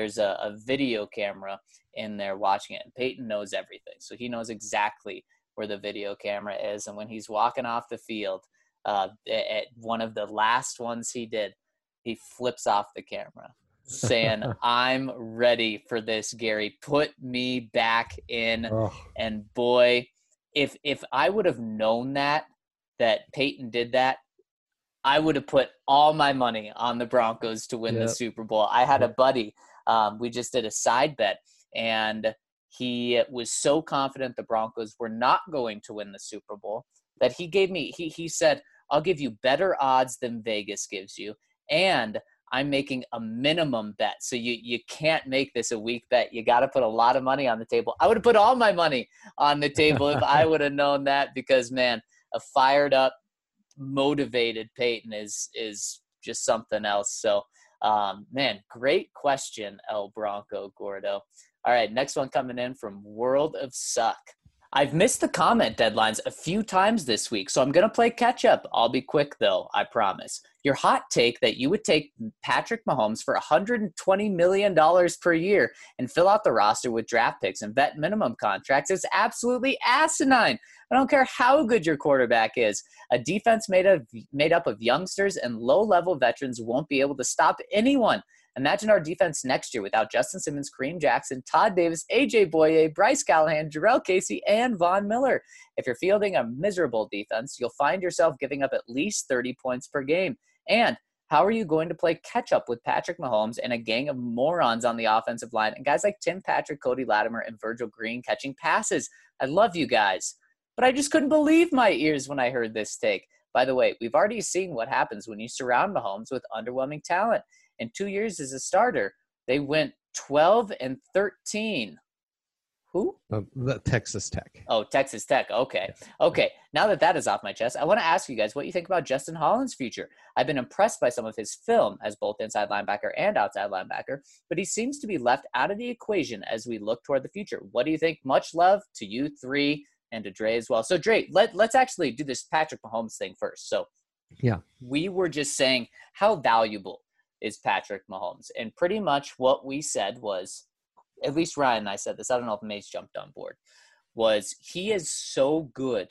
a video camera in there watching it. And Peyton knows everything. So he knows exactly where the video camera is. And when he's walking off the field, at one of the last ones he did, he flips off the camera saying, I'm ready for this, Gary. Put me back in. Oh. And boy, if I would have known that Peyton did that, I would have put all my money on the Broncos to win the Super Bowl. I had a buddy, we just did a side bet, and he was so confident the Broncos were not going to win the Super Bowl that he gave me, he said, I'll give you better odds than Vegas gives you, and I'm making a minimum bet. So you can't make this a weak bet. You got to put a lot of money on the table. I would have put all my money on the table if I would have known that, because, man, a fired up, motivated Peyton is just something else. So, man, great question, El Bronco Gordo. All right, next one coming in from World of Suck. I've missed the comment deadlines a few times this week, so I'm going to play catch up. I'll be quick, though, I promise. Your hot take that you would take Patrick Mahomes for $120 million per year and fill out the roster with draft picks and vet minimum contracts is absolutely asinine. I don't care how good your quarterback is. A defense made up of youngsters and low-level veterans won't be able to stop anyone. Imagine our defense next year without Justin Simmons, Kareem Jackson, Todd Davis, A.J. Boye, Bryce Callahan, Jarrell Casey, and Von Miller. If you're fielding a miserable defense, you'll find yourself giving up at least 30 points per game. And how are you going to play catch-up with Patrick Mahomes and a gang of morons on the offensive line and guys like Tim Patrick, Cody Latimer, and Virgil Green catching passes? I love you guys, but I just couldn't believe my ears when I heard this take. By the way, we've already seen what happens when you surround Mahomes with underwhelming talent. In 2 years as a starter, they went 12-13. Who? The Texas Tech. Oh, Texas Tech. Okay. Okay. Now that is off my chest, I want to ask you guys what you think about Justin Holland's future. I've been impressed by some of his film as both inside linebacker and outside linebacker, but he seems to be left out of the equation as we look toward the future. What do you think? Much love to you three and to Dre as well. So, Dre, let's actually do this Patrick Mahomes thing first. So, yeah, we were just saying how valuable is Patrick Mahomes. And pretty much what we said was, at least Ryan and I said this, I don't know if Mace jumped on board, was he is so good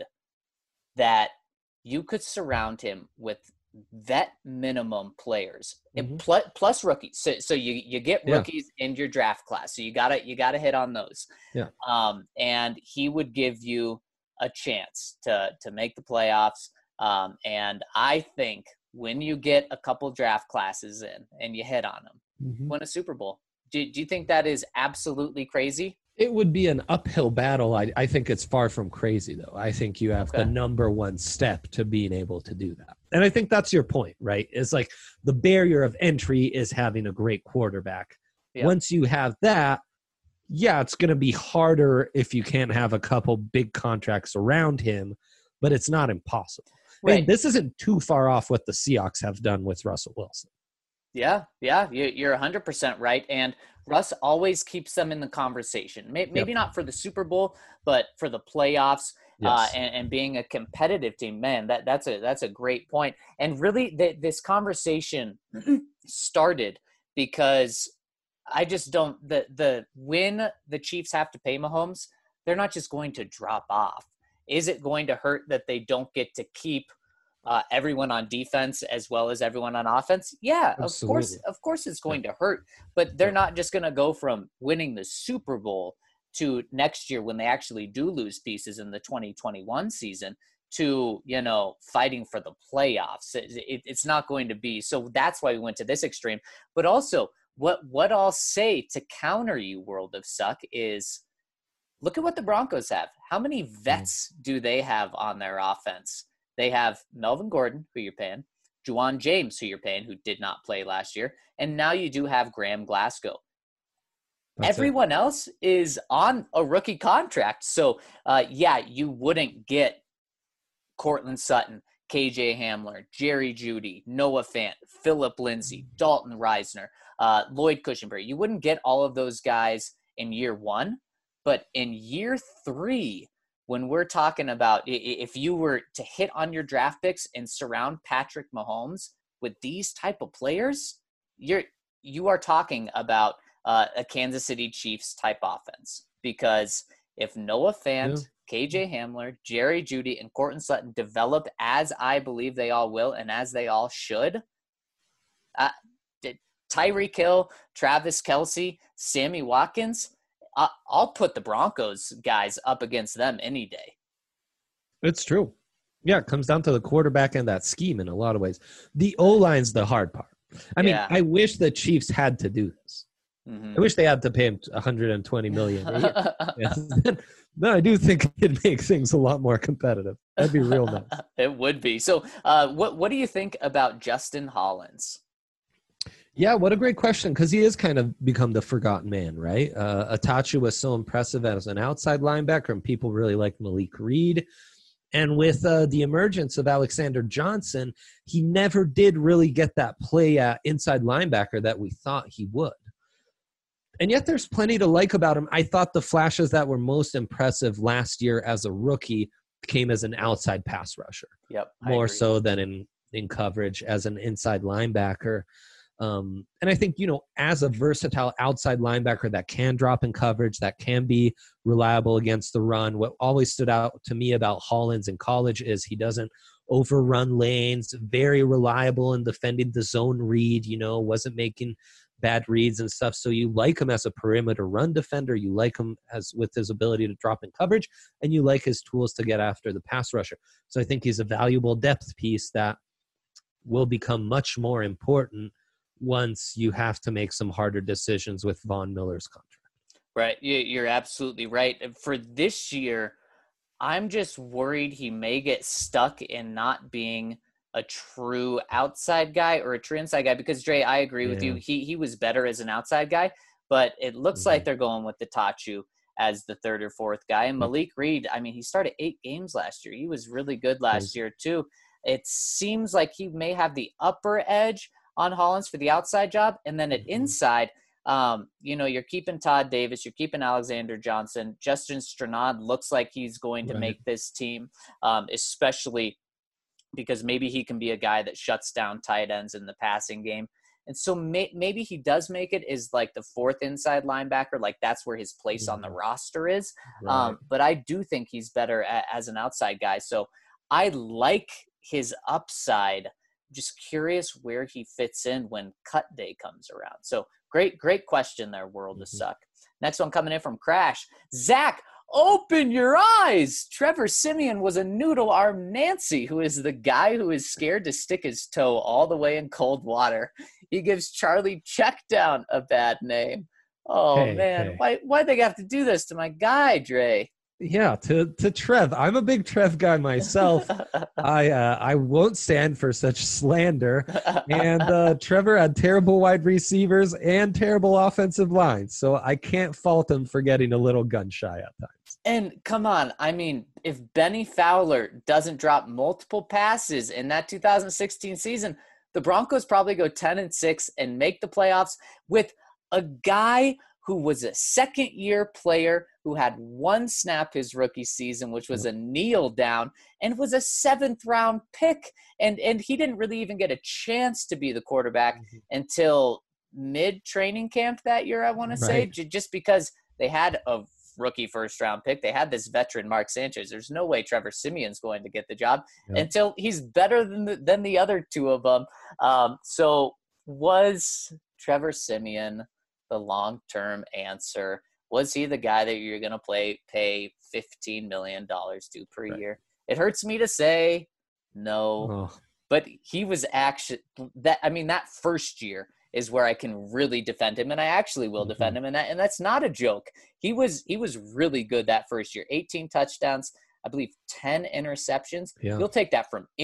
that you could surround him with vet minimum players plus rookies. So you get rookies in your draft class. So you gotta hit on those. Yeah. And he would give you a chance to make the playoffs. And I think when you get a couple draft classes in and you hit on them, win a Super Bowl. Do you think that is absolutely crazy? It would be an uphill battle. I think it's far from crazy, though. I think you have the number one step to being able to do that. And I think that's your point, right? It's like the barrier of entry is having a great quarterback. Yeah. Once you have that, it's going to be harder if you can't have a couple big contracts around him, but it's not impossible. Right. And this isn't too far off what the Seahawks have done with Russell Wilson. Yeah, you're 100% right. And Russ always keeps them in the conversation. Maybe not for the Super Bowl, but for the playoffs. Yes. And being a competitive team, man, that's a great point. And really, this conversation started because I just don't when the Chiefs have to pay Mahomes, they're not just going to drop off. Is it going to hurt that they don't get to keep everyone on defense as well as everyone on offense? Yeah, absolutely. Of course it's going to hurt, but they're not just going to go from winning the Super Bowl to next year when they actually do lose pieces in the 2021 season to, fighting for the playoffs. It's not going to be. So that's why we went to this extreme. But also, what I'll say to counter you, World of Suck, is look at what the Broncos have. How many vets do they have on their offense? They have Melvin Gordon, who you're paying, Juwan James, who you're paying, who did not play last year, and now you do have Graham Glasgow. Everyone else is on a rookie contract. So, you wouldn't get Cortland Sutton, KJ Hamler, Jerry Jeudy, Noah Fant, Phillip Lindsay, Dalton Reisner, Lloyd Cushenberry. You wouldn't get all of those guys in year one, but in year three, when we're talking about if you were to hit on your draft picks and surround Patrick Mahomes with these type of players, you are talking about a Kansas City Chiefs type offense. Because if Noah Fant, KJ Hamler, Jerry Jeudy, and Cortland Sutton develop as I believe they all will and as they all should, Tyreek Hill, Travis Kelce, Sammy Watkins, I'll put the Broncos guys up against them any day. It's true. Yeah, it comes down to the quarterback and that scheme in a lot of ways. The O-line's the hard part. I mean, I wish the Chiefs had to do this. Mm-hmm. I wish they had to pay him $120 million a year. No, I do think it'd make things a lot more competitive. That'd be real nice. It would be. So what do you think about Justin Hollins? Yeah, what a great question, because he has kind of become the forgotten man, right? Atachu was so impressive as an outside linebacker, and people really like Malik Reed. And with the emergence of Alexander Johnson, he never did really get that play inside linebacker that we thought he would. And yet there's plenty to like about him. I thought the flashes that were most impressive last year as a rookie came as an outside pass rusher. Yep, more so than in coverage as an inside linebacker. And I think, as a versatile outside linebacker that can drop in coverage, that can be reliable against the run, what always stood out to me about Hollins in college is he doesn't overrun lanes, very reliable in defending the zone read, wasn't making bad reads and stuff. So you like him as a perimeter run defender. You like him with his ability to drop in coverage, and you like his tools to get after the pass rusher. So I think he's a valuable depth piece that will become much more important once you have to make some harder decisions with Von Miller's contract. Right. You're absolutely right. For this year, I'm just worried he may get stuck in not being a true outside guy or a true inside guy, because Dre, I agree with you. He was better as an outside guy, but it looks like they're going with the Tachu as the third or fourth guy. And Malik Reed, I mean, he started 8 games last year. He was really good last year too. It seems like he may have the upper edge on Hollins for the outside job. And then at inside, you're keeping Todd Davis, you're keeping Alexander Johnson. Justin Stranad looks like he's going to make this team, especially because maybe he can be a guy that shuts down tight ends in the passing game. And so maybe he does make it as like the fourth inside linebacker. Like that's where his place on the roster is. Right. But I do think he's better as an outside guy. So I like his upside. Just curious where he fits in when cut day comes around. So great question there, World of Suck. Next one coming in from Crash. Zach, open your eyes. Trevor Siemian was a noodle-armed Nancy, who is the guy who is scared to stick his toe all the way in cold water. He gives Charlie Checkdown a bad name. Oh, man. Why'd they have to do this to my guy, Dre? Yeah, to Trev. I'm a big Trev guy myself. I won't stand for such slander. And Trevor had terrible wide receivers and terrible offensive lines, so I can't fault him for getting a little gun shy at times. And come on, I mean, if Benny Fowler doesn't drop multiple passes in that 2016 season, the Broncos probably go 10-6 and make the playoffs with a guy who was a second-year player who had one snap his rookie season, which was a kneel down, and was a 7th-round pick. And he didn't really even get a chance to be the quarterback until mid-training camp that year, I want to say, just because they had a rookie first-round pick. They had this veteran, Mark Sanchez. There's no way Trevor Siemian's going to get the job until he's better than the other two of them. So was Trevor Siemian the long-term answer? Was he the guy that you're going to pay $15 million to per year? It hurts me to say no, Oh, but he was actually that first year is where I can really defend him, and I actually will defend him, and that's not a joke. He was really good that first year. 18 touchdowns, I believe 10 interceptions. yeah. You'll take that from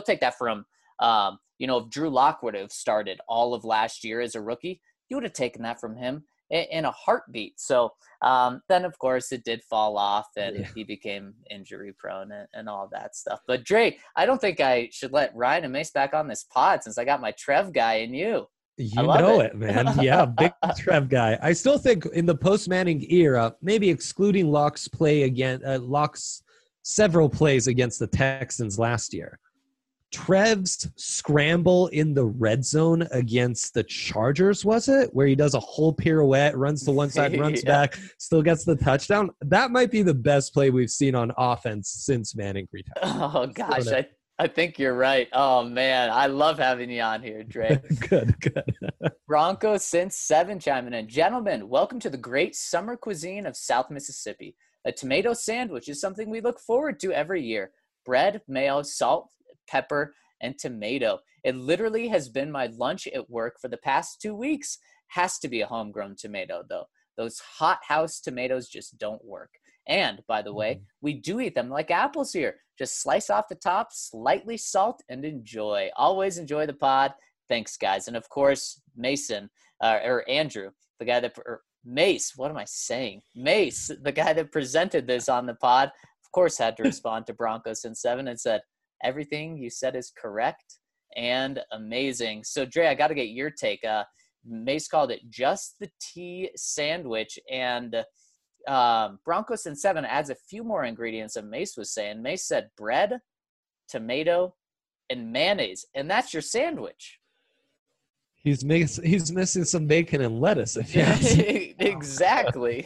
if Drew Lock would have started all of last year as a rookie, you would have taken that from him in a heartbeat. So then, of course, it did fall off, and he became injury prone and all that stuff. But Dre, I don't think I should let Ryan and Mace back on this pod since I got my Trev guy and you. You know it, man. Yeah, big Trev guy. I still think in the post-Manning era, maybe excluding Locke's Locke's several plays against the Texans last year, Trev's scramble in the red zone against the Chargers, was it? Where he does a whole pirouette, runs to one side, runs back, still gets the touchdown. That might be the best play we've seen on offense since Manning retired. Oh, gosh. I think you're right. Oh, man. I love having you on here, Dre. Good. Broncos since 7 chiming in. Gentlemen, welcome to the great summer cuisine of South Mississippi. A tomato sandwich is something we look forward to every year. Bread, mayo, salt, pepper, and tomato. It literally has been my lunch at work for the past 2 weeks. Has to be a homegrown tomato, though. Those hot house tomatoes just don't work. And, by the way, we do eat them like apples here. Just slice off the top, slightly salt, and enjoy. Always enjoy the pod. Thanks, guys. And, of course, Mason, or Andrew, the guy that Mace, what am I saying? Mace, the guy that presented this on the pod, of course, had to respond to Broncos in 7 and said, everything you said is correct and amazing. So, Dre, I got to get your take. Mace called it just the tea sandwich, and Broncos in 7 adds a few more ingredients that Mace was saying. Mace said bread, tomato, and mayonnaise, and that's your sandwich. He's missing some bacon and lettuce, if you ask me. Exactly.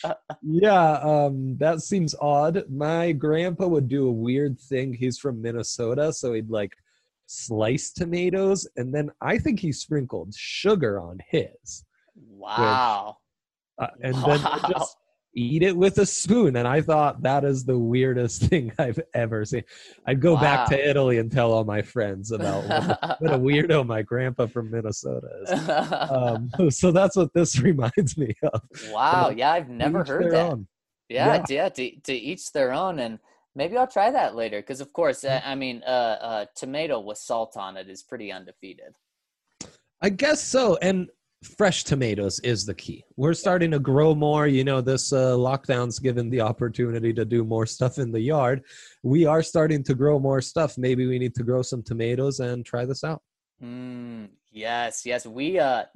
Yeah, that seems odd. My grandpa would do a weird thing. He's from Minnesota, so he'd like slice tomatoes, and then I think he sprinkled sugar on his. Wow. And then just eat it with a spoon. And I thought that is the weirdest thing I've ever seen. I'd go back to Italy and tell all my friends about what a weirdo my grandpa from Minnesota is. So that's what this reminds me of. Wow. Yeah, I've never heard that. Yeah, to each their own. And maybe I'll try that later. Because, of course, tomato with salt on it is pretty undefeated. I guess so. And fresh tomatoes is the key. We're starting to grow more. This lockdown's given the opportunity to do more stuff in the yard. We are starting to grow more stuff. Maybe we need to grow some tomatoes and try this out. Yes. We,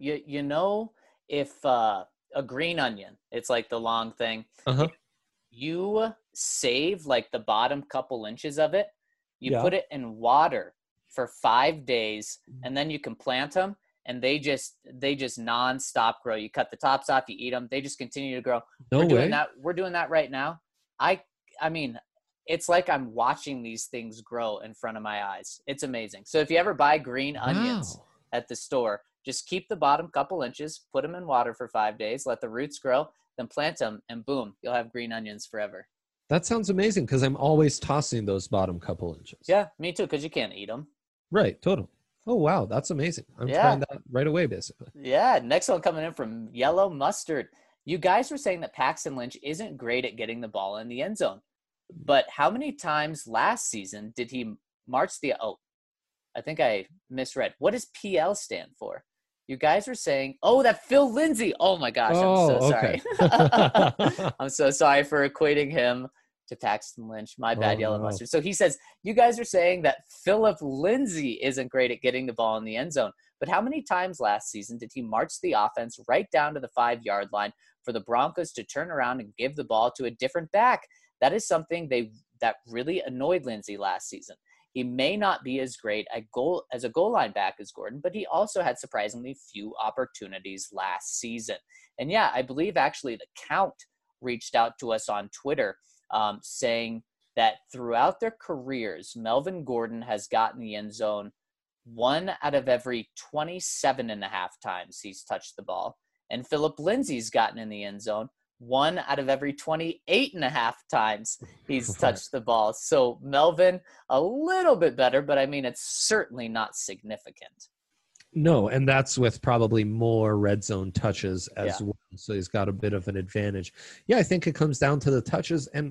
if a green onion, it's like the long thing. Uh-huh. You save like the bottom couple inches of it. You put it in water for 5 days, and then you can plant them. And they just nonstop grow. You cut the tops off, you eat them. They just continue to grow. We're doing that right now. I mean, it's like I'm watching these things grow in front of my eyes. It's amazing. So if you ever buy green onions at the store, just keep the bottom couple inches, put them in water for 5 days, let the roots grow, then plant them, and boom, you'll have green onions forever. That sounds amazing because I'm always tossing those bottom couple inches. Yeah, me too, because you can't eat them. Right, totally. Oh, wow. That's amazing. I'm trying that right away, basically. Yeah. Next one coming in from Yellow Mustard. You guys were saying that Paxton Lynch isn't great at getting the ball in the end zone. But how many times last season did he march I think I misread. What does PL stand for? You guys were saying, that Phil Lindsay. Oh, my gosh. I'm so sorry. I'm so sorry for equating him to Paxton Lynch. My bad, Yellow Mustard. So he says, you guys are saying that Philip Lindsay isn't great at getting the ball in the end zone. But how many times last season did he march the offense right down to the 5-yard line for the Broncos to turn around and give the ball to a different back? That is something that really annoyed Lindsay last season. He may not be as great as a goal line back as Gordon, but he also had surprisingly few opportunities last season. And yeah, I believe actually the Count reached out to us on Twitter saying that throughout their careers, Melvin Gordon has gotten the end zone 1 out of every 27.5 times he's touched the ball. And Philip Lindsay's gotten in the end zone 1 out of every 28 and a half times he's touched the ball. So Melvin, a little bit better, but I mean, it's certainly not significant. No, and that's with probably more red zone touches as well. So he's got a bit of an advantage. Yeah, I think it comes down to the touches, and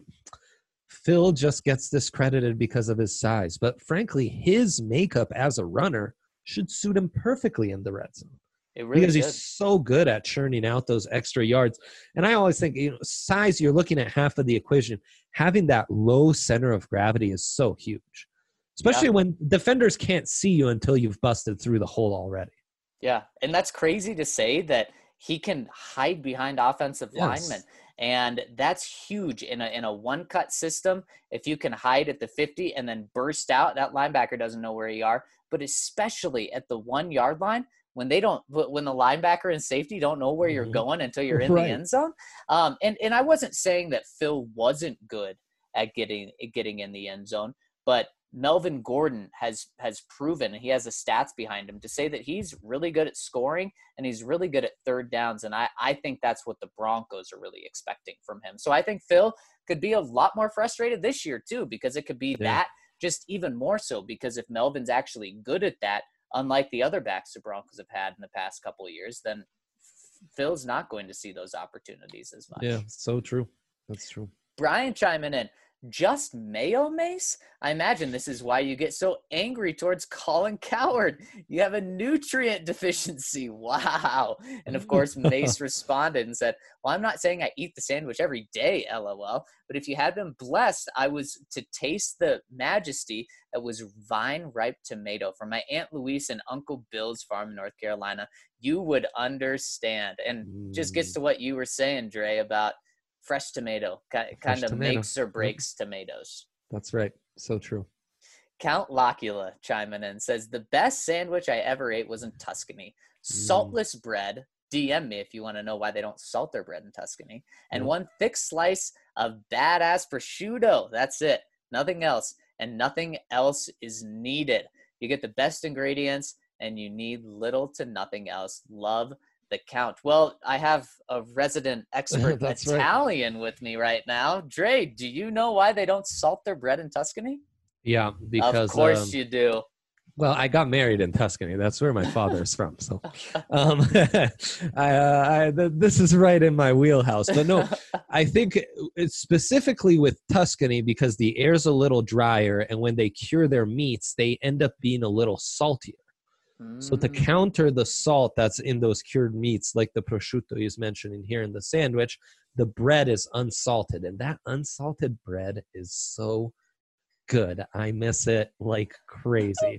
Phil just gets discredited because of his size. But frankly, his makeup as a runner should suit him perfectly in the red zone. It really because he's so good at churning out those extra yards. And I always think, size, you're looking at half of the equation. Having that low center of gravity is so huge. Especially when defenders can't see you until you've busted through the hole already. Yeah, and that's crazy to say that he can hide behind offensive linemen. And that's huge in a one-cut system. If you can hide at the 50 and then burst out, that linebacker doesn't know where you are. But especially at the 1 yard line, when the linebacker and safety don't know where you're going until you're in the end zone. And I wasn't saying that Phil wasn't good at getting in the end zone, but Melvin Gordon has proven, and he has the stats behind him, to say that he's really good at scoring and he's really good at third downs. And I think that's what the Broncos are really expecting from him. So I think Phil could be a lot more frustrated this year too, because it could be that just even more so, because if Melvin's actually good at that, unlike the other backs the Broncos have had in the past couple of years, then Phil's not going to see those opportunities as much. Yeah, so true. That's true. Brian chiming in. Just Mayo Mace? I imagine this is why you get so angry towards Colin Cowherd. You have a nutrient deficiency. Wow. And of course, Mace responded and said, well, I'm not saying I eat the sandwich every day, LOL, but if you had been blessed, I was to taste the majesty that was vine-ripe tomato from my Aunt Louise and Uncle Bill's farm in North Carolina, you would understand. And just gets to what you were saying, Dre, about fresh tomato kind of makes or breaks tomatoes. That's right. So true. Count Locula chiming in says, the best sandwich I ever ate was in Tuscany. Saltless bread. DM me if you want to know why they don't salt their bread in Tuscany. And one thick slice of badass prosciutto. That's it. Nothing else. And nothing else is needed. You get the best ingredients and you need little to nothing else. Love the Count. Well, I have a resident expert Italian with me right now. Dre, do you know why they don't salt their bread in Tuscany? Yeah, because of course you do. Well, I got married in Tuscany. That's where my father is from. So this is right in my wheelhouse. But no, I think it's specifically with Tuscany because the air's a little drier, and when they cure their meats, they end up being a little saltier. So to counter the salt that's in those cured meats, like the prosciutto he's mentioning here in the sandwich, the bread is unsalted. And that unsalted bread is so good. I miss it like crazy.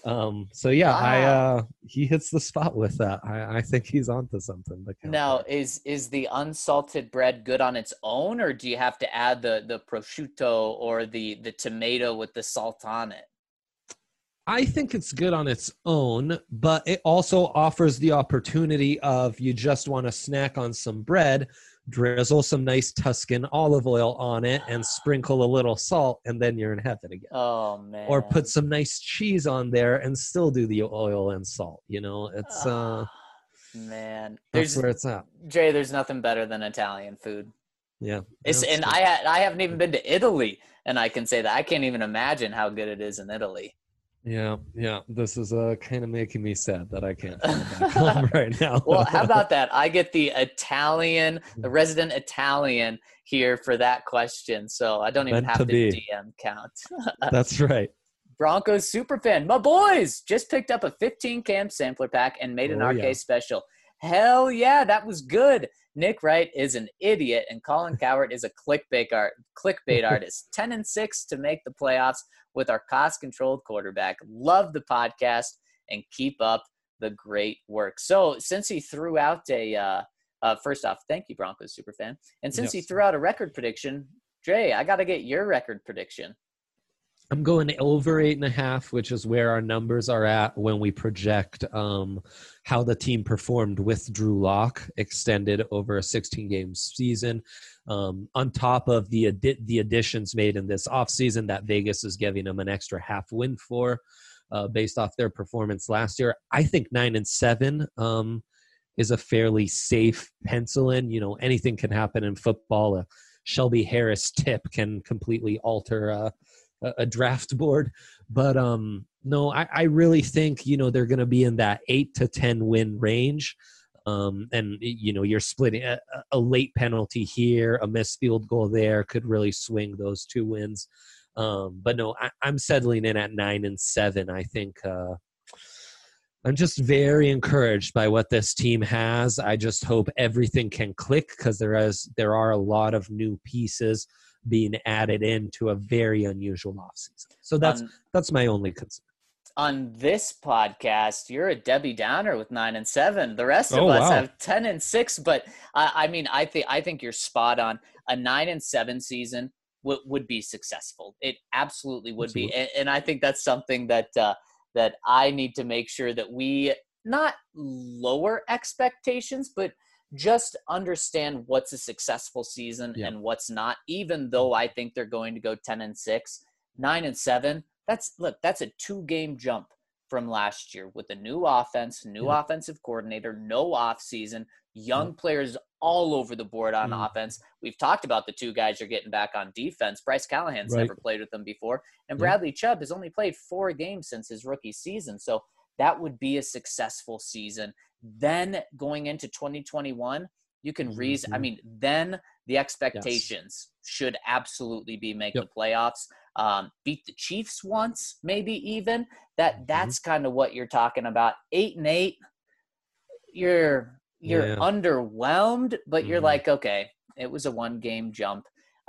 He hits the spot with that. I think he's onto something. Now, is the unsalted bread good on its own, or do you have to add the prosciutto or the tomato with the salt on it? I think it's good on its own, but it also offers the opportunity of you just want to snack on some bread, drizzle some nice Tuscan olive oil on it, and sprinkle a little salt, and then you're in heaven again. Oh, man. Or put some nice cheese on there and still do the oil and salt. It's man. That's where it's at. Jay, there's nothing better than Italian food. Yeah. And I haven't even been to Italy, and I can say that I can't even imagine how good it is in Italy. Yeah. This is kind of making me sad that I can't come back home right now. Well, how about that? I get the resident Italian here for that question, so I don't even have to DM count. That's right. Broncos superfan, my boys just picked up a 15-cam sampler pack and made an RK special. Hell yeah, that was good. Nick Wright is an idiot, and Colin Cowherd is a clickbait artist. 10-6 to make the playoffs with our cost-controlled quarterback. Love the podcast, and keep up the great work. So since he threw out first off, thank you, Broncos superfan. And since he threw out a record prediction, Dre, I got to get your record prediction. I'm going over 8.5, which is where our numbers are at when we project how the team performed with Drew Lock extended over a 16-game season. On top of the additions made in this offseason that Vegas is giving them an extra half win for based off their performance last year. I think 9-7 is a fairly safe pencil in. You know, anything can happen in football. A Shelby Harris tip can completely alter a draft board. But no, I really think, you know, they're going to be in that 8 to 10 win range. And, you know, you're splitting a late penalty here, a missed field goal there could really swing those 2 wins. But no, I'm settling in at 9-7. I think I'm just very encouraged by what this team has. I just hope everything can click, because there are a lot of new pieces being added into a very unusual offseason. So that's my only concern. On this podcast, you're a Debbie Downer with 9-7. The rest of us have 10-6. But I mean, I think you're spot on. A 9-7 season would be successful. It absolutely would be, and I think that's something that I need to make sure that we not lower expectations, but just understand what's a successful season and what's not. Even though I think they're going to go 10-6, 9-7. That's a 2-game jump from last year with a new offense, new offensive coordinator, no off season, young players all over the board on offense. We've talked about the 2 guys you're getting back on defense. Bryce Callahan's never played with them before, and Bradley Chubb has only played 4 games since his rookie season. So that would be a successful season. Then going into 2021, you can I mean, then the expectations should absolutely be make the playoffs. Beat the Chiefs once, maybe even. That's kind of what you're talking about. 8-8, you're underwhelmed, but you're like, okay, it was a 1-game jump,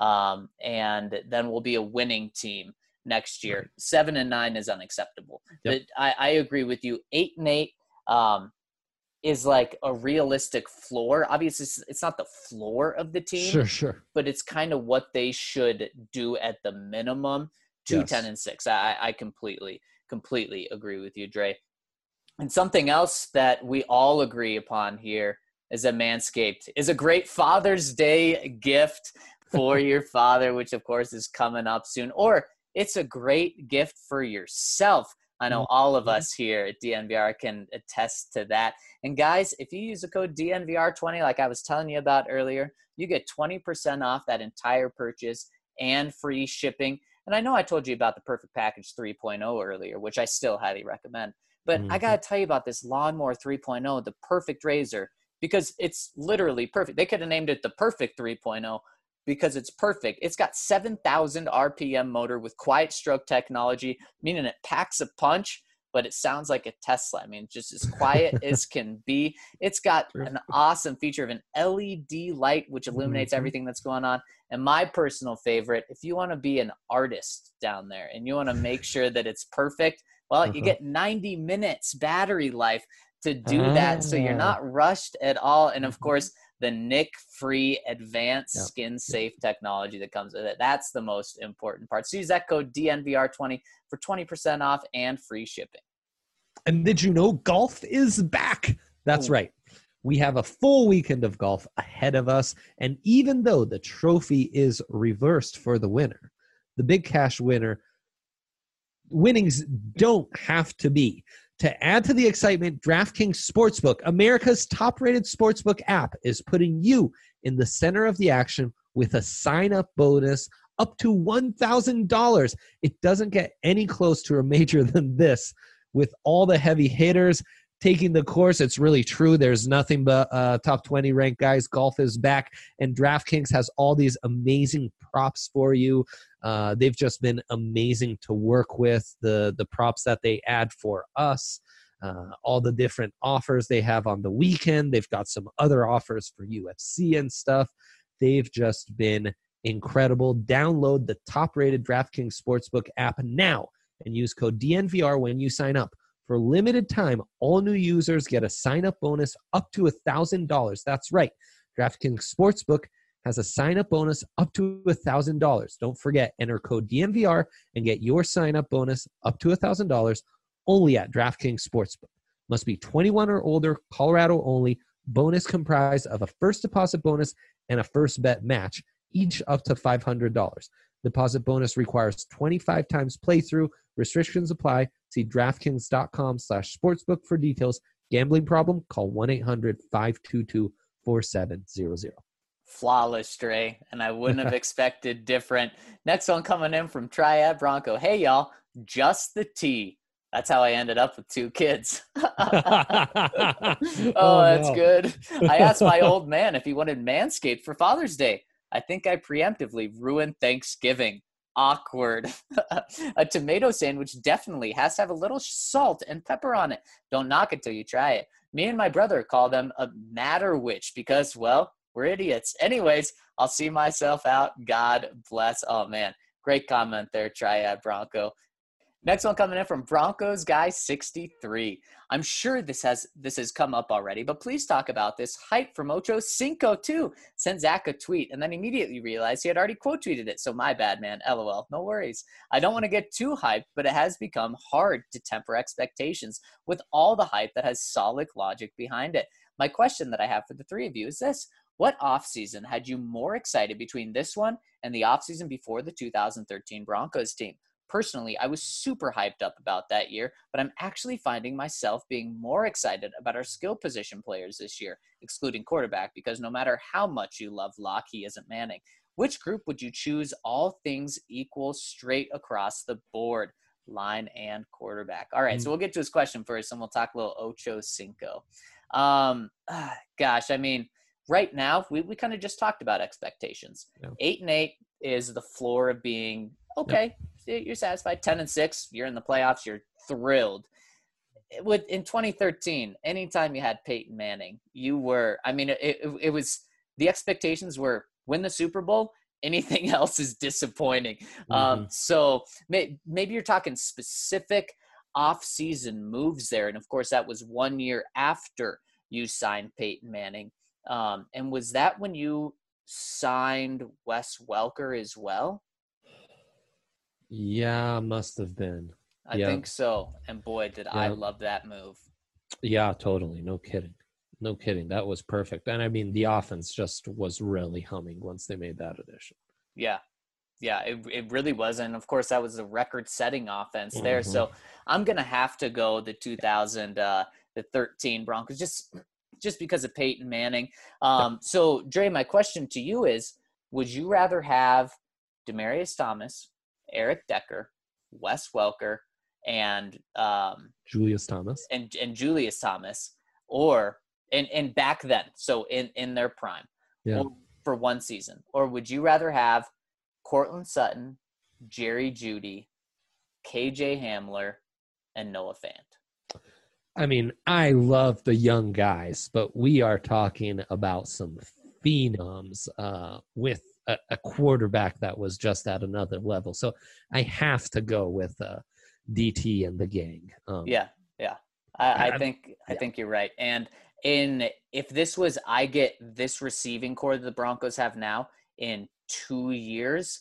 and then we'll be a winning team next year. 7-9 is unacceptable. But I agree with you. 8-8 is like a realistic floor. Obviously, it's not the floor of the team. Sure. But it's kind of what they should do at the minimum to 10-6. I completely agree with you, Dre. And something else that we all agree upon here is that Manscaped is a great Father's Day gift for your father, which of course is coming up soon. Or it's a great gift for yourself. I know all of us here at DNVR can attest to that. And guys, if you use the code DNVR20, like I was telling you about earlier, you get 20% off that entire purchase and free shipping. And I know I told you about the Perfect Package 3.0 earlier, which I still highly recommend. But I got to tell you about this Lawnmower 3.0, the perfect razor, because it's literally perfect. They could have named it the Perfect 3.0 because it's perfect. It's got 7,000 RPM motor with quiet stroke technology, meaning it packs a punch, but it sounds like a Tesla. I mean, just as quiet as can be. It's got an awesome feature of an LED light, which illuminates everything that's going on. And my personal favorite, if you want to be an artist down there and you want to make sure that it's perfect, well, you get 90 minutes battery life to do that. So you're not rushed at all. And of course, the nick-free advanced skin-safe technology that comes with it. That's the most important part. So use that code DNVR20 for 20% off and free shipping. And did you know golf is back? That's right. We have a full weekend of golf ahead of us. And even though the trophy is reversed for the winner, the big cash winnings don't have to be. To add to the excitement, DraftKings Sportsbook, America's top-rated sportsbook app, is putting you in the center of the action with a sign-up bonus up to $1,000. It doesn't get any close to a major than this. With all the heavy hitters taking the course, it's really true. There's nothing but top 20 ranked guys. Golf is back, and DraftKings has all these amazing props for you. They've just been amazing to work with, the props that they add for us, all the different offers they have on the weekend. They've got some other offers for UFC and stuff. They've just been incredible. Download the top-rated DraftKings Sportsbook app now and use code DNVR when you sign up. For limited time, all new users get a sign-up bonus up to $1,000. That's right. DraftKings Sportsbook has a sign-up bonus up to $1,000. Don't forget, enter code DNVR and get your sign-up bonus up to $1,000 only at DraftKings Sportsbook. Must be 21 or older, Colorado only. Bonus comprised of a first deposit bonus and a first bet match, each up to $500. Deposit bonus requires 25 times playthrough. Restrictions apply. See DraftKings.com/sportsbook for details. Gambling problem? Call 1-800-522-4700. Flawless, Dre, and I wouldn't have expected different. Next one coming in from Triad Bronco. Hey, y'all, just the tea. That's how I ended up with 2 kids. That's good. I asked my old man if he wanted Manscaped for Father's Day. I think I preemptively ruined Thanksgiving. Awkward. A tomato sandwich definitely has to have a little salt and pepper on it. Don't knock it till you try it. Me and my brother call them a matter witch because, well, we're idiots. Anyways, I'll see myself out. God bless. Oh, man. Great comment there, Triad Bronco. Next one coming in from Broncos Guy 63. I'm sure this has come up already, but please talk about this hype from Ocho Cinco too. Sent Zach a tweet and then immediately realized he had already quote tweeted it. So my bad, man. LOL. No worries. I don't want to get too hyped, but it has become hard to temper expectations with all the hype that has solid logic behind it. My question that I have for the 3 of you is this. What offseason had you more excited between this one and the offseason before the 2013 Broncos team? Personally, I was super hyped up about that year, but I'm actually finding myself being more excited about our skill position players this year, excluding quarterback, because no matter how much you love Locke, he isn't Manning. Which group would you choose all things equal straight across the board, line and quarterback? All right, so we'll get to his question first, and we'll talk a little Ocho Cinco. Gosh, I mean, right now, we kind of just talked about expectations. 8-8 is the floor of being okay. You're satisfied. 10-6, you're in the playoffs. You're thrilled. In 2013, anytime you had Peyton Manning, you were. I mean, it was the expectations were win the Super Bowl. Anything else is disappointing. So maybe you're talking specific off-season moves there, and of course that was 1 year after you signed Peyton Manning. And was that when you signed Wes Welker as well? Yeah, must have been. I think so. And boy, did I love that move. Yeah, totally. No kidding. That was perfect. And I mean, the offense just was really humming once they made that addition. Yeah, it really was. And of course, that was a record-setting offense there. So I'm going to have to go the 2013 Broncos just because of Peyton Manning. So, Dre, my question to you is, would you rather have Demaryius Thomas, Eric Decker, Wes Welker, and Julius Thomas, and Julius Thomas, or and back then, so in their prime, for one season, or would you rather have Courtland Sutton, Jerry Jeudy, KJ Hamler, and Noah Fant? I mean, I love the young guys, but we are talking about some phenoms with a quarterback that was just at another level. So I have to go with DT and the gang. I think you're right. And if this was, I get this receiving core that the Broncos have now in 2 years,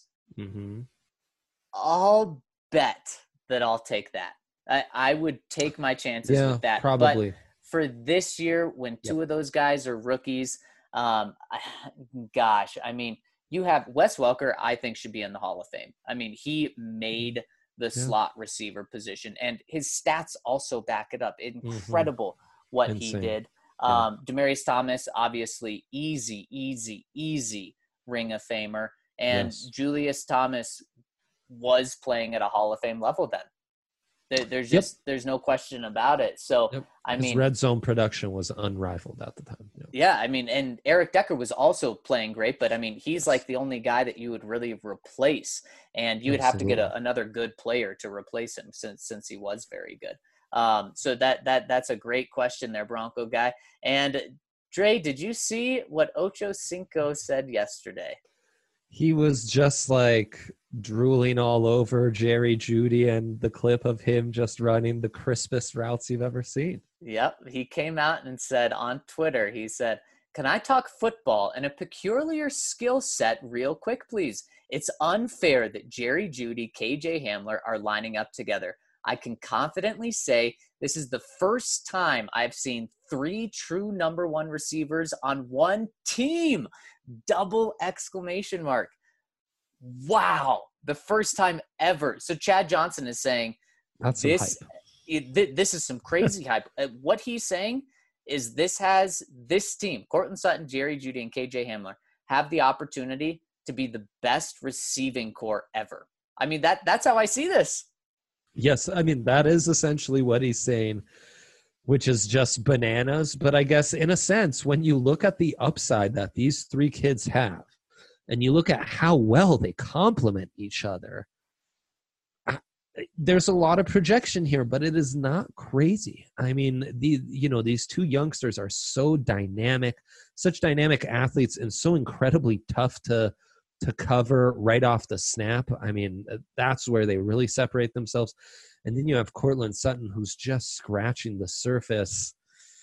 I'll bet that I'll take that. I would take my chances with that. Probably. But for this year, when 2 of those guys are rookies, gosh, I mean, you have Wes Welker, I think, should be in the Hall of Fame. I mean, he made the slot receiver position, and his stats also back it up. Incredible what he did. Demaryius Thomas, obviously, easy Ring of Famer. And Julius Thomas was playing at a Hall of Fame level then. There's no question about it. So, I mean, his red zone production was unrivaled at the time. Yeah, I mean, and Eric Decker was also playing great, but I mean, he's like the only guy that you would really replace, and you would have to get another good player to replace him since he was very good. So that's a great question there, Bronco guy. And Dre, did you see what Ocho Cinco said yesterday? He was just like drooling all over Jerry Jeudy and the clip of him just running the crispest routes you've ever seen. Yep. He came out and said on Twitter, he said, "Can I talk football and a peculiar skill set real quick, please? It's unfair that Jerry Jeudy, KJ Hamler are lining up together. I can confidently say this is the first time I've seen 3 true number 1 receivers on one team. Double exclamation mark. Wow. The first time ever." So Chad Johnson is saying that's this. this is some crazy hype. What he's saying is this team, Cortland Sutton, Jerry Jeudy, and KJ Hamler, have the opportunity to be the best receiving core ever. I mean, that's how I see this. Yes, I mean, that is essentially what he's saying, which is just bananas. But I guess in a sense, when you look at the upside that these three kids have, and you look at how well they complement each other, there's a lot of projection here, but it is not crazy. I mean, these two youngsters are so dynamic, such dynamic athletes, and so incredibly tough to cover right off the snap. I mean, that's where they really separate themselves. And then you have Cortland Sutton, who's just scratching the surface.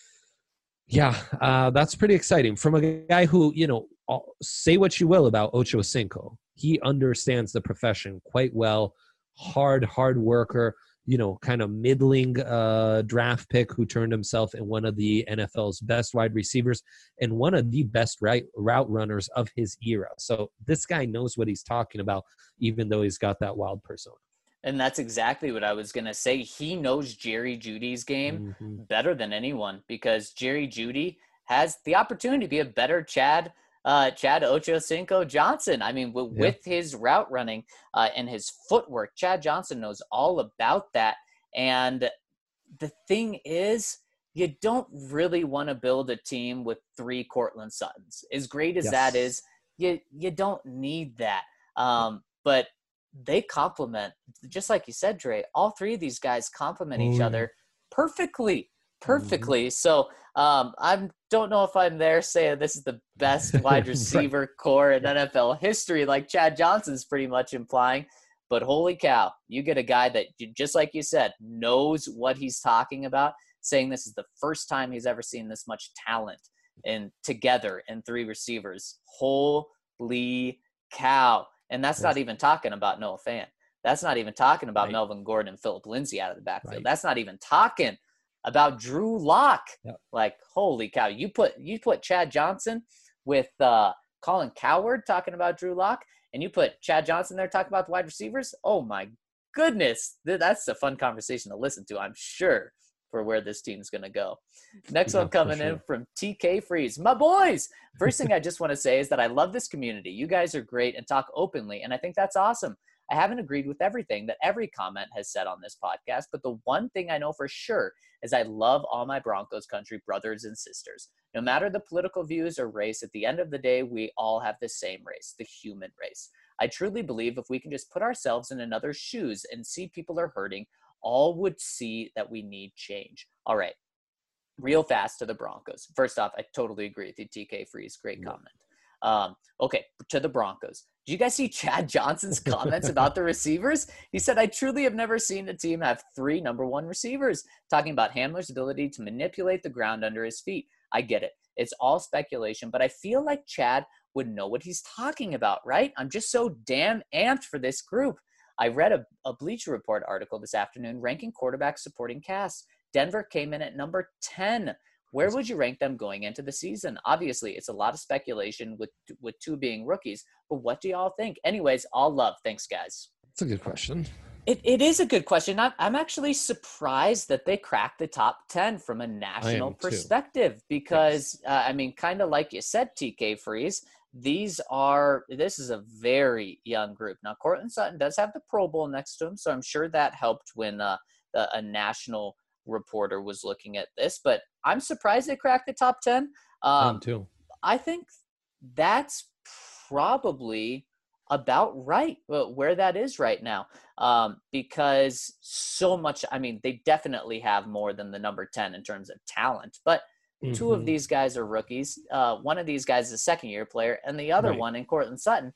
Yeah, that's pretty exciting. From a guy who, say what you will about Ocho Cinco. He understands the profession quite well. Hard worker, kind of middling draft pick who turned himself in one of the NFL's best wide receivers and one of the best route runners of his era. So this guy knows what he's talking about, even though he's got that wild persona. And that's exactly what I was going to say. He knows Jerry Jeudy's game better than anyone, because Jerry Jeudy has the opportunity to be a better Chad Ochocinco Johnson. I mean, with his route running and his footwork, Chad Johnson knows all about that. And the thing is, you don't really want to build a team with three Cortland Suttons. As great as that is, you don't need that. But they complement, just like you said, Dre, all three of these guys complement each other perfectly. So I don't know if I'm there saying this is the best wide receiver core in NFL history, like Chad Johnson's pretty much implying. But holy cow, you get a guy that, just like you said, knows what he's talking about, saying this is the first time he's ever seen this much talent together in three receivers. Holy cow. And that's not even talking about Noah Fant. That's not even talking about Melvin Gordon and Phillip Lindsay out of the backfield. Right. That's not even talking about Drew Lock. Yep. Like, holy cow. You put Chad Johnson with Colin Cowherd talking about Drew Lock, and you put Chad Johnson there talking about the wide receivers. Oh my goodness. That's a fun conversation to listen to, I'm sure, for where this team's going to go. Next one coming in from TK Freeze. My boys! First thing I just want to say is that I love this community. You guys are great and talk openly, and I think that's awesome. I haven't agreed with everything that every comment has said on this podcast, but the one thing I know for sure is I love all my Broncos country brothers and sisters. No matter the political views or race, at the end of the day, we all have the same race, the human race. I truly believe if we can just put ourselves in another's shoes and see people are hurting, all would see that we need change. All right. Real fast to the Broncos. First off, I totally agree with you, TK Freeze. Great comment. Okay, to the Broncos. Did you guys see Chad Johnson's comments about the receivers? He said, I truly have never seen a team have three number one receivers, talking about Hamler's ability to manipulate the ground under his feet. I get it. It's all speculation, but I feel like Chad would know what he's talking about, right? I'm just so damn amped for this group. I read a Bleacher Report article this afternoon ranking quarterbacks supporting cast. Denver came in at number 10. Where would you rank them going into the season? Obviously, it's a lot of speculation with two being rookies, but what do y'all think? Anyways, all love. Thanks, guys. That's a good question. It is a good question. I'm actually surprised that they cracked the top 10 from a national perspective because, kind of like you said, TK Freeze, this is a very young group. Now, Cortland Sutton does have the Pro Bowl next to him, so I'm sure that helped when a national reporter was looking at this, but I'm surprised they cracked the top 10. Too. I think that's probably about right where that is right now, because so much, they definitely have more than the number 10 in terms of talent, but two of these guys are rookies. One of these guys is a second-year player, and the other one in Cortland Sutton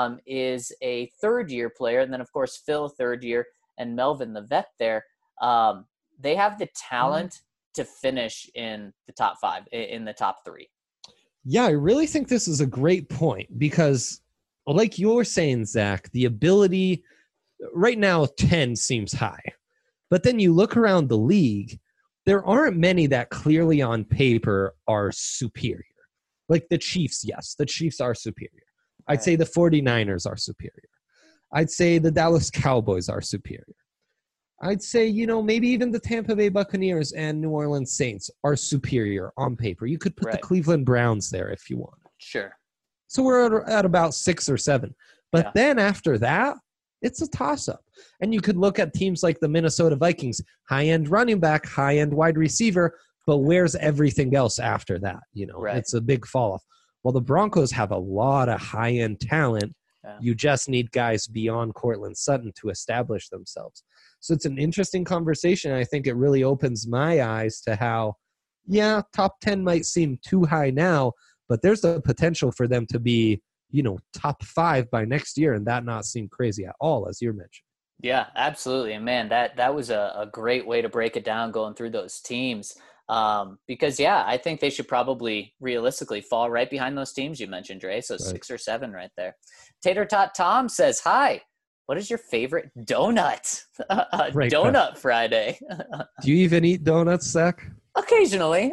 is a third-year player, and then, of course, Phil, third year, and Melvin, the vet there. They have the talent to finish in the top 5, in the top 3. Yeah, I really think this is a great point because, like you were saying, Zach, the ability right now, 10 seems high. But then you look around the league, there aren't many that clearly on paper are superior. Like the Chiefs, yes, the Chiefs are superior. I'd say the 49ers are superior. I'd say the Dallas Cowboys are superior. I'd say, maybe even the Tampa Bay Buccaneers and New Orleans Saints are superior on paper. You could put the Cleveland Browns there if you want. Sure. So we're at about 6 or 7. But then after that, it's a toss-up. And you could look at teams like the Minnesota Vikings, high-end running back, high-end wide receiver, but where's everything else after that? It's a big fall-off. Well, the Broncos have a lot of high-end talent. Yeah. You just need guys beyond Courtland Sutton to establish themselves. So it's an interesting conversation. I think it really opens my eyes to how, top 10 might seem too high now, but there's the potential for them to be, top 5 by next year and that not seem crazy at all, as you're mentioning. Yeah, absolutely. And man, that was a great way to break it down going through those teams. Because I think they should probably realistically fall right behind those teams you mentioned, Dre. So 6 or 7 right there. Tater Tot Tom says, hi, what is your favorite donut? Donut Friday. Do you even eat donuts, Zach? Occasionally.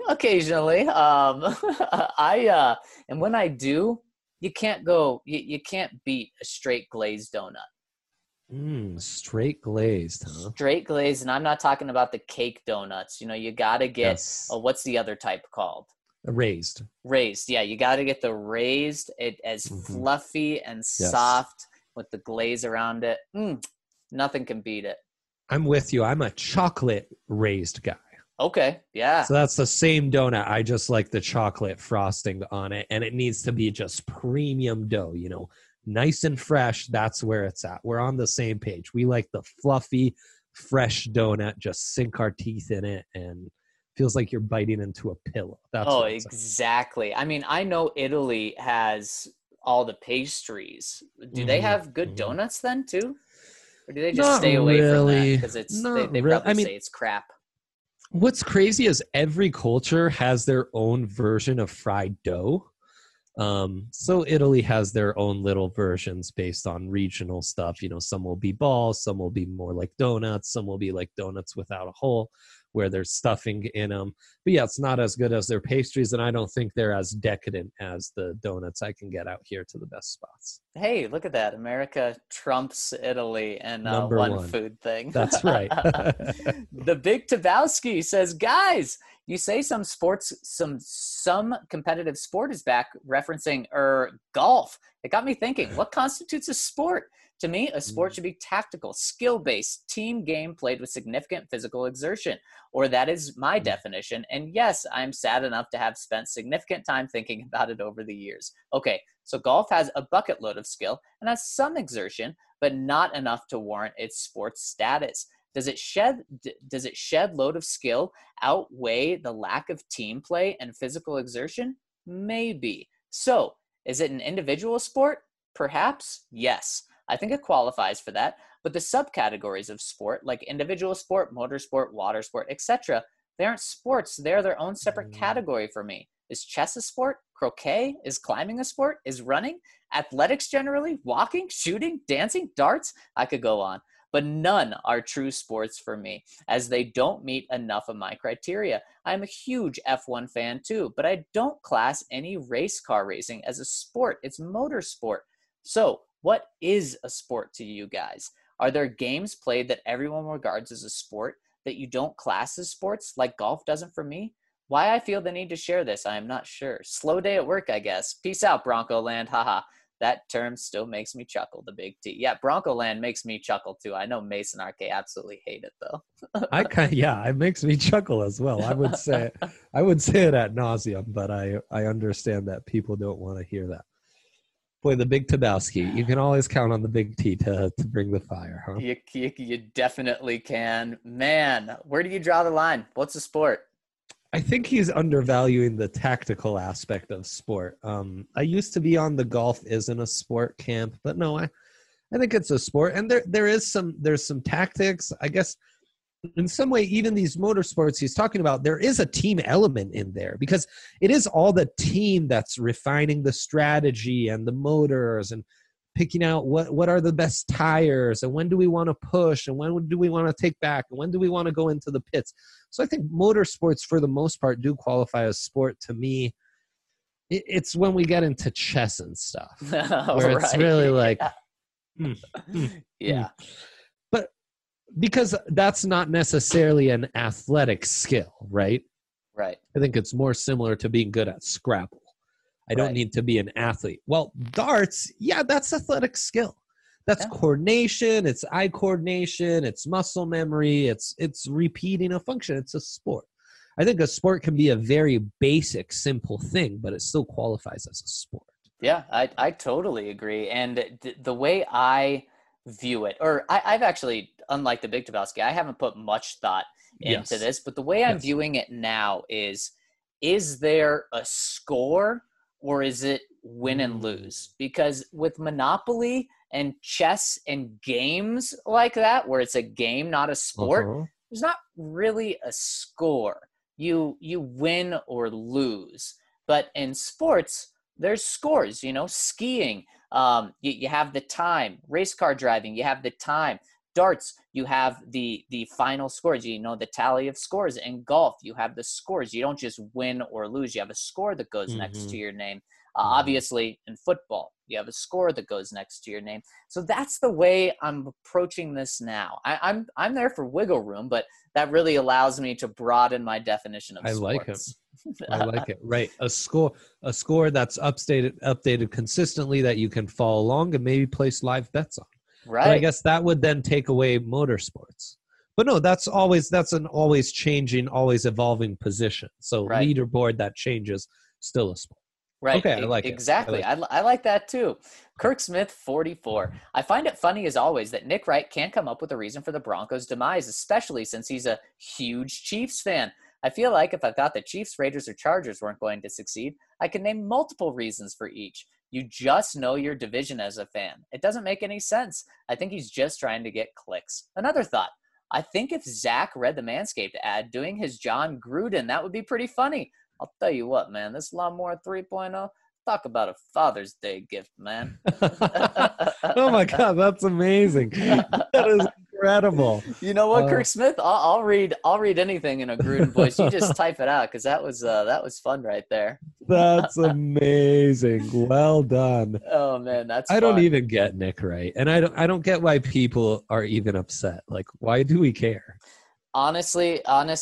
And when I do, you can't beat a straight glazed donut. Straight glazed, huh? Straight glazed, and I'm not talking about the cake donuts. You got to get, what's the other type called? Raised. Yeah, you got to get the raised, as fluffy and soft with the glaze around it. Nothing can beat it. I'm with you. I'm a chocolate raised guy. Okay, yeah. So that's the same donut. I just like the chocolate frosting on it, and it needs to be just premium dough, nice and fresh. That's where it's at. We're on the same page. We like the fluffy, fresh donut, just sink our teeth in it and feels like you're biting into a pillow. That's exactly. I mean, I know Italy has all the pastries. Do they have good donuts then too? Or do they just stay away from that? Because they probably say it's crap. What's crazy is every culture has their own version of fried dough. So Italy has their own little versions based on regional stuff. Some will be balls, some will be more like donuts, some will be like donuts without a hole where there's stuffing in them. But it's not as good as their pastries, and I don't think they're as decadent as the donuts I can get out here to the best spots. Hey, look at that. America trumps Italy and one food thing. That's right. The Big Tabowski says, guys, you say some competitive sport is back, referencing golf. It got me thinking, what constitutes a sport? To me, a sport should be tactical, skill-based, team game played with significant physical exertion, or that is my definition. And yes, I'm sad enough to have spent significant time thinking about it over the years. Okay, so golf has a bucket load of skill and has some exertion, but not enough to warrant its sports status. Does it shed load of skill outweigh the lack of team play and physical exertion? Maybe. So, is it an individual sport? Perhaps, yes. I think it qualifies for that, but the subcategories of sport, like individual sport, motorsport, water sport, etc., they aren't sports. They're their own separate category for me. Is chess a sport? Croquet? Is climbing a sport? Is running? Athletics generally? Walking? Shooting? Dancing? Darts? I could go on. But none are true sports for me, as they don't meet enough of my criteria. I'm a huge F1 fan too, but I don't class any race car racing as a sport. It's motorsport. So, what is a sport to you guys? Are there games played that everyone regards as a sport that you don't class as sports, like golf doesn't for me? Why I feel the need to share this, I am not sure. Slow day at work, I guess. Peace out, Bronco Land. Haha. That term still makes me chuckle, the Big T. Yeah, Bronco Land makes me chuckle too. I know Mason RK absolutely hate it though. It makes me chuckle as well. I would say it ad nauseum, but I understand that people don't want to hear that. Boy, the Big Tabowski. You can always count on the Big T to bring the fire, huh? You definitely can. Man, where do you draw the line? What's a sport? I think he's undervaluing the tactical aspect of sport. I used to be on the golf isn't a sport camp, but no, I think it's a sport. And there's some tactics. I guess in some way, even these motorsports he's talking about, there is a team element in there because it is all the team that's refining the strategy and the motors and picking out what are the best tires and when do we want to push and when do we want to take back and when do we want to go into the pits. So I think motorsports for the most part do qualify as sport to me. It's when we get into chess and stuff where it's really like, yeah. But because that's not necessarily an athletic skill, right? Right. I think it's more similar to being good at Scrabble. I don't Right. need to be an athlete. Well, darts, yeah, that's athletic skill. That's Yeah. coordination, it's eye coordination, it's muscle memory, it's repeating a function. It's a sport. I think a sport can be a very basic, simple thing, but it still qualifies as a sport. Yeah, I totally agree. And the way I view it, or I've actually, unlike the Big Lebowski, I haven't put much thought into Yes. this, but the way I'm Yes. viewing it now is there a score or is it win and lose? Because with Monopoly and chess and games like that, where it's a game, not a sport, Uh-huh. there's not really a score. You win or lose. But in sports, there's scores, skiing. You have the time. Race car driving, you have the time. Darts, you have the final scores, the tally of scores. In golf, you have the scores. You don't just win or lose. You have a score that goes next to your name. Obviously, in football, you have a score that goes next to your name. So that's the way I'm approaching this now. I'm there for wiggle room, but that really allows me to broaden my definition of I sports. like it. I like it. Right. A score that's updated consistently that you can follow along and maybe place live bets on. Right. But I guess that would then take away motorsports. But no, that's an always changing, always evolving position. So Right. leaderboard that changes, still a sport. Right. Okay, I like it. Exactly. I like that too. Kirk Smith, 44. I find it funny as always that Nick Wright can't come up with a reason for the Broncos' demise, especially since he's a huge Chiefs fan. I feel like if I thought the Chiefs, Raiders, or Chargers weren't going to succeed, I could name multiple reasons for each. You just know your division as a fan. It doesn't make any sense. I think he's just trying to get clicks. Another thought. I think if Zach read the Manscaped ad doing his John Gruden, that would be pretty funny. I'll tell you what, man, this Lawnmower 3.0, talk about a Father's Day gift, man. Oh my God, that's amazing. That is incredible. You know what, Kirk Smith? I'll read anything in a Gruden voice. You just type it out because that was fun right there. That's amazing. Well done. Oh man, that's I don't fun. even get Nick Wright, and I don't get why people are even upset. Like, why do we care? Honestly,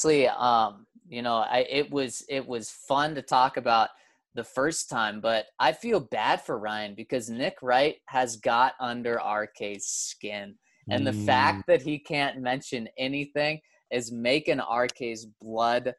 it was fun to talk about the first time, but I feel bad for Ryan because Nick Wright has got under RK's skin. And the fact that he can't mention anything is making RK's blood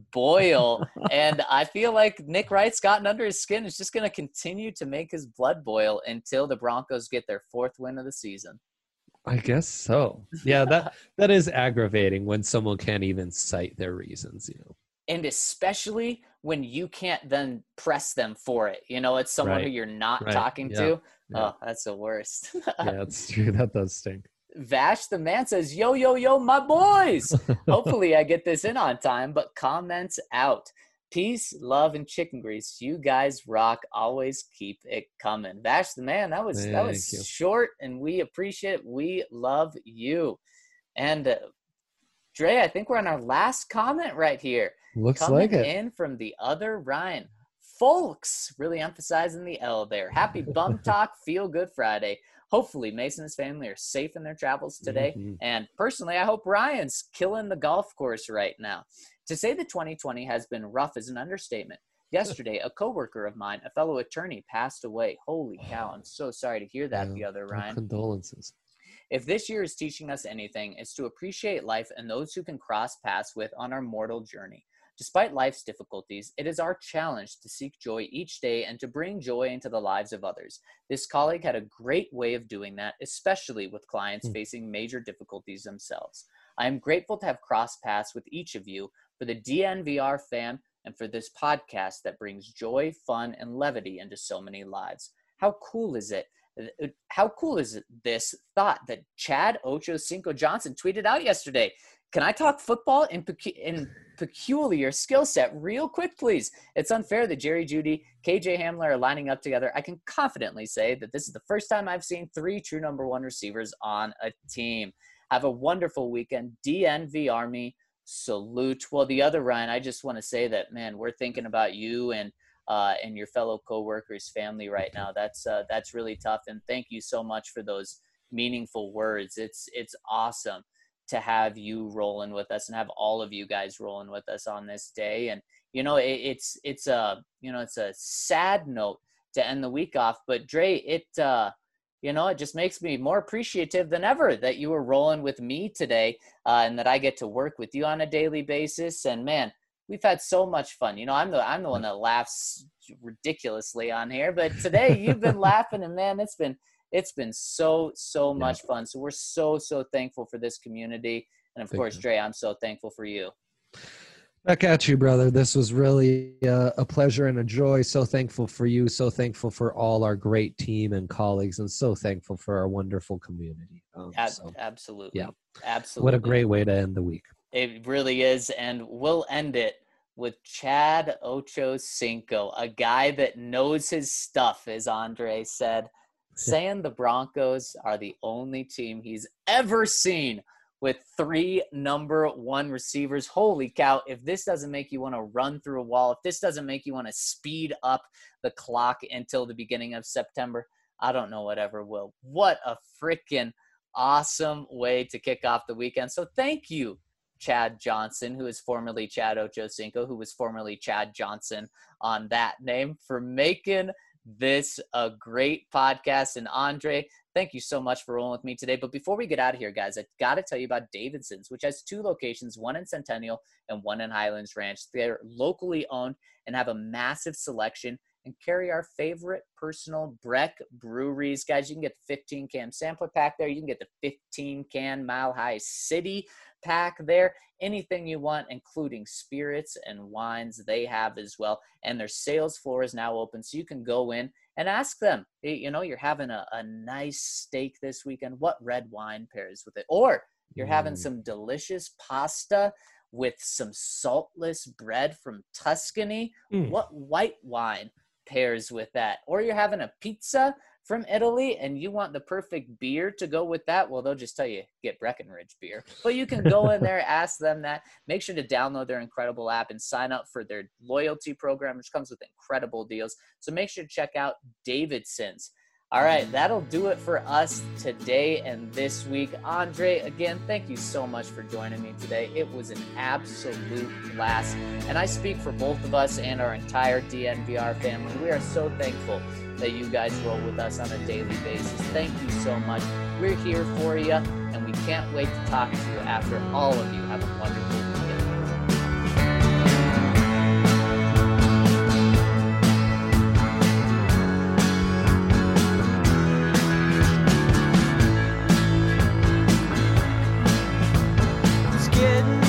boil. And I feel like Nick Wright's gotten under his skin. It's just going to continue to make his blood boil until the Broncos get their 4th win of the season. I guess so. Yeah, that is aggravating when someone can't even cite their reasons, And especially when you can't then press them for it. It's someone who you're not talking to. Yeah. Oh, that's the worst. Yeah, it's true. That does stink. Vash the man says, yo, my boys. Hopefully I get this in on time, but comments out. Peace, love, and chicken grease. You guys rock. Always keep it coming. Vash the man, that was short, and we appreciate it. We love you. And Dre, I think we're on our last comment right here. Looks Coming like it. in from the other Ryan. Folks, really emphasizing the L there. Happy Bum Talk, Feel Good Friday. Hopefully Mason and his family are safe in their travels today. Mm-hmm. And personally, I hope Ryan's killing the golf course right now. To say that 2020 has been rough is an understatement. Yesterday, a coworker of mine, a fellow attorney, passed away. Holy cow, I'm so sorry to hear that, the other Ryan. Condolences. If this year is teaching us anything, it's to appreciate life and those who can cross paths with on our mortal journey. Despite life's difficulties, it is our challenge to seek joy each day and to bring joy into the lives of others. This colleague had a great way of doing that, especially with clients facing major difficulties themselves. I am grateful to have crossed paths with each of you, for the DNVR fam, and for this podcast that brings joy, fun, and levity into so many lives. How cool is it? How cool is this thought that Chad Ochocinco Johnson tweeted out yesterday? Can I talk football in peculiar skill set real quick, please? It's unfair that Jerry Jeudy, KJ Hamler are lining up together. I can confidently say that this is the first time I've seen 3 true number 1 receivers on a team. Have a wonderful weekend. DNV Army, salute. Well, the other Ryan, I just want to say that, man, we're thinking about you and your fellow coworkers' family right now. That's really tough. And thank you so much for those meaningful words. It's awesome to have you rolling with us and have all of you guys rolling with us on this day. And, it's a sad note to end the week off, but Dre, it just makes me more appreciative than ever that you were rolling with me today, and that I get to work with you on a daily basis. And man, we've had so much fun. I'm the one that laughs ridiculously on here, but today you've been laughing, and man, it's been so much fun. So we're so thankful for this community. And of course, Dre, I'm so thankful for you. Back at you, brother. This was really a pleasure and a joy. So thankful for you. So thankful for all our great team and colleagues, and so thankful for our wonderful community. Absolutely. Yeah. Absolutely. What a great way to end the week. It really is. And we'll end it with Chad Ochocinco, a guy that knows his stuff, as Andre said, saying the Broncos are the only team he's ever seen with 3 number 1 receivers. Holy cow. If this doesn't make you want to run through a wall, if this doesn't make you want to speed up the clock until the beginning of September, I don't know whatever will. What a freaking awesome way to kick off the weekend. So thank you, Chad Johnson, who is formerly Chad Ochocinco, who was formerly Chad Johnson on that name, for making this a great podcast. And Andre, thank you so much for rolling with me today. But before we get out of here, guys, I got to tell you about Davidson's, which has 2 locations, one in Centennial and one in Highlands Ranch. They're locally owned and have a massive selection and carry our favorite personal Breck breweries. Guys, you can get the 15-can sampler pack there. You can get the 15-can Mile High City pack there. Anything you want, including spirits and wines, they have as well. And their sales floor is now open, so you can go in and ask them, you're having a nice steak this weekend, what red wine pairs with it? Or you're having some delicious pasta with some saltless bread from Tuscany. What white wine pairs with that? Or you're having a pizza from Italy and you want the perfect beer to go with that. Well, they'll just tell you, get Breckenridge beer. But you can go in there, ask them that. Make sure to download their incredible app and sign up for their loyalty program, which comes with incredible deals. So make sure to check out Davidson's. All right, that'll do it for us today and this week. Andre, again, thank you so much for joining me today. It was an absolute blast. And I speak for both of us and our entire DNVR family. We are so thankful that you guys roll with us on a daily basis. Thank you so much. We're here for you, and we can't wait to talk to you after all of you have a wonderful weekend. It's getting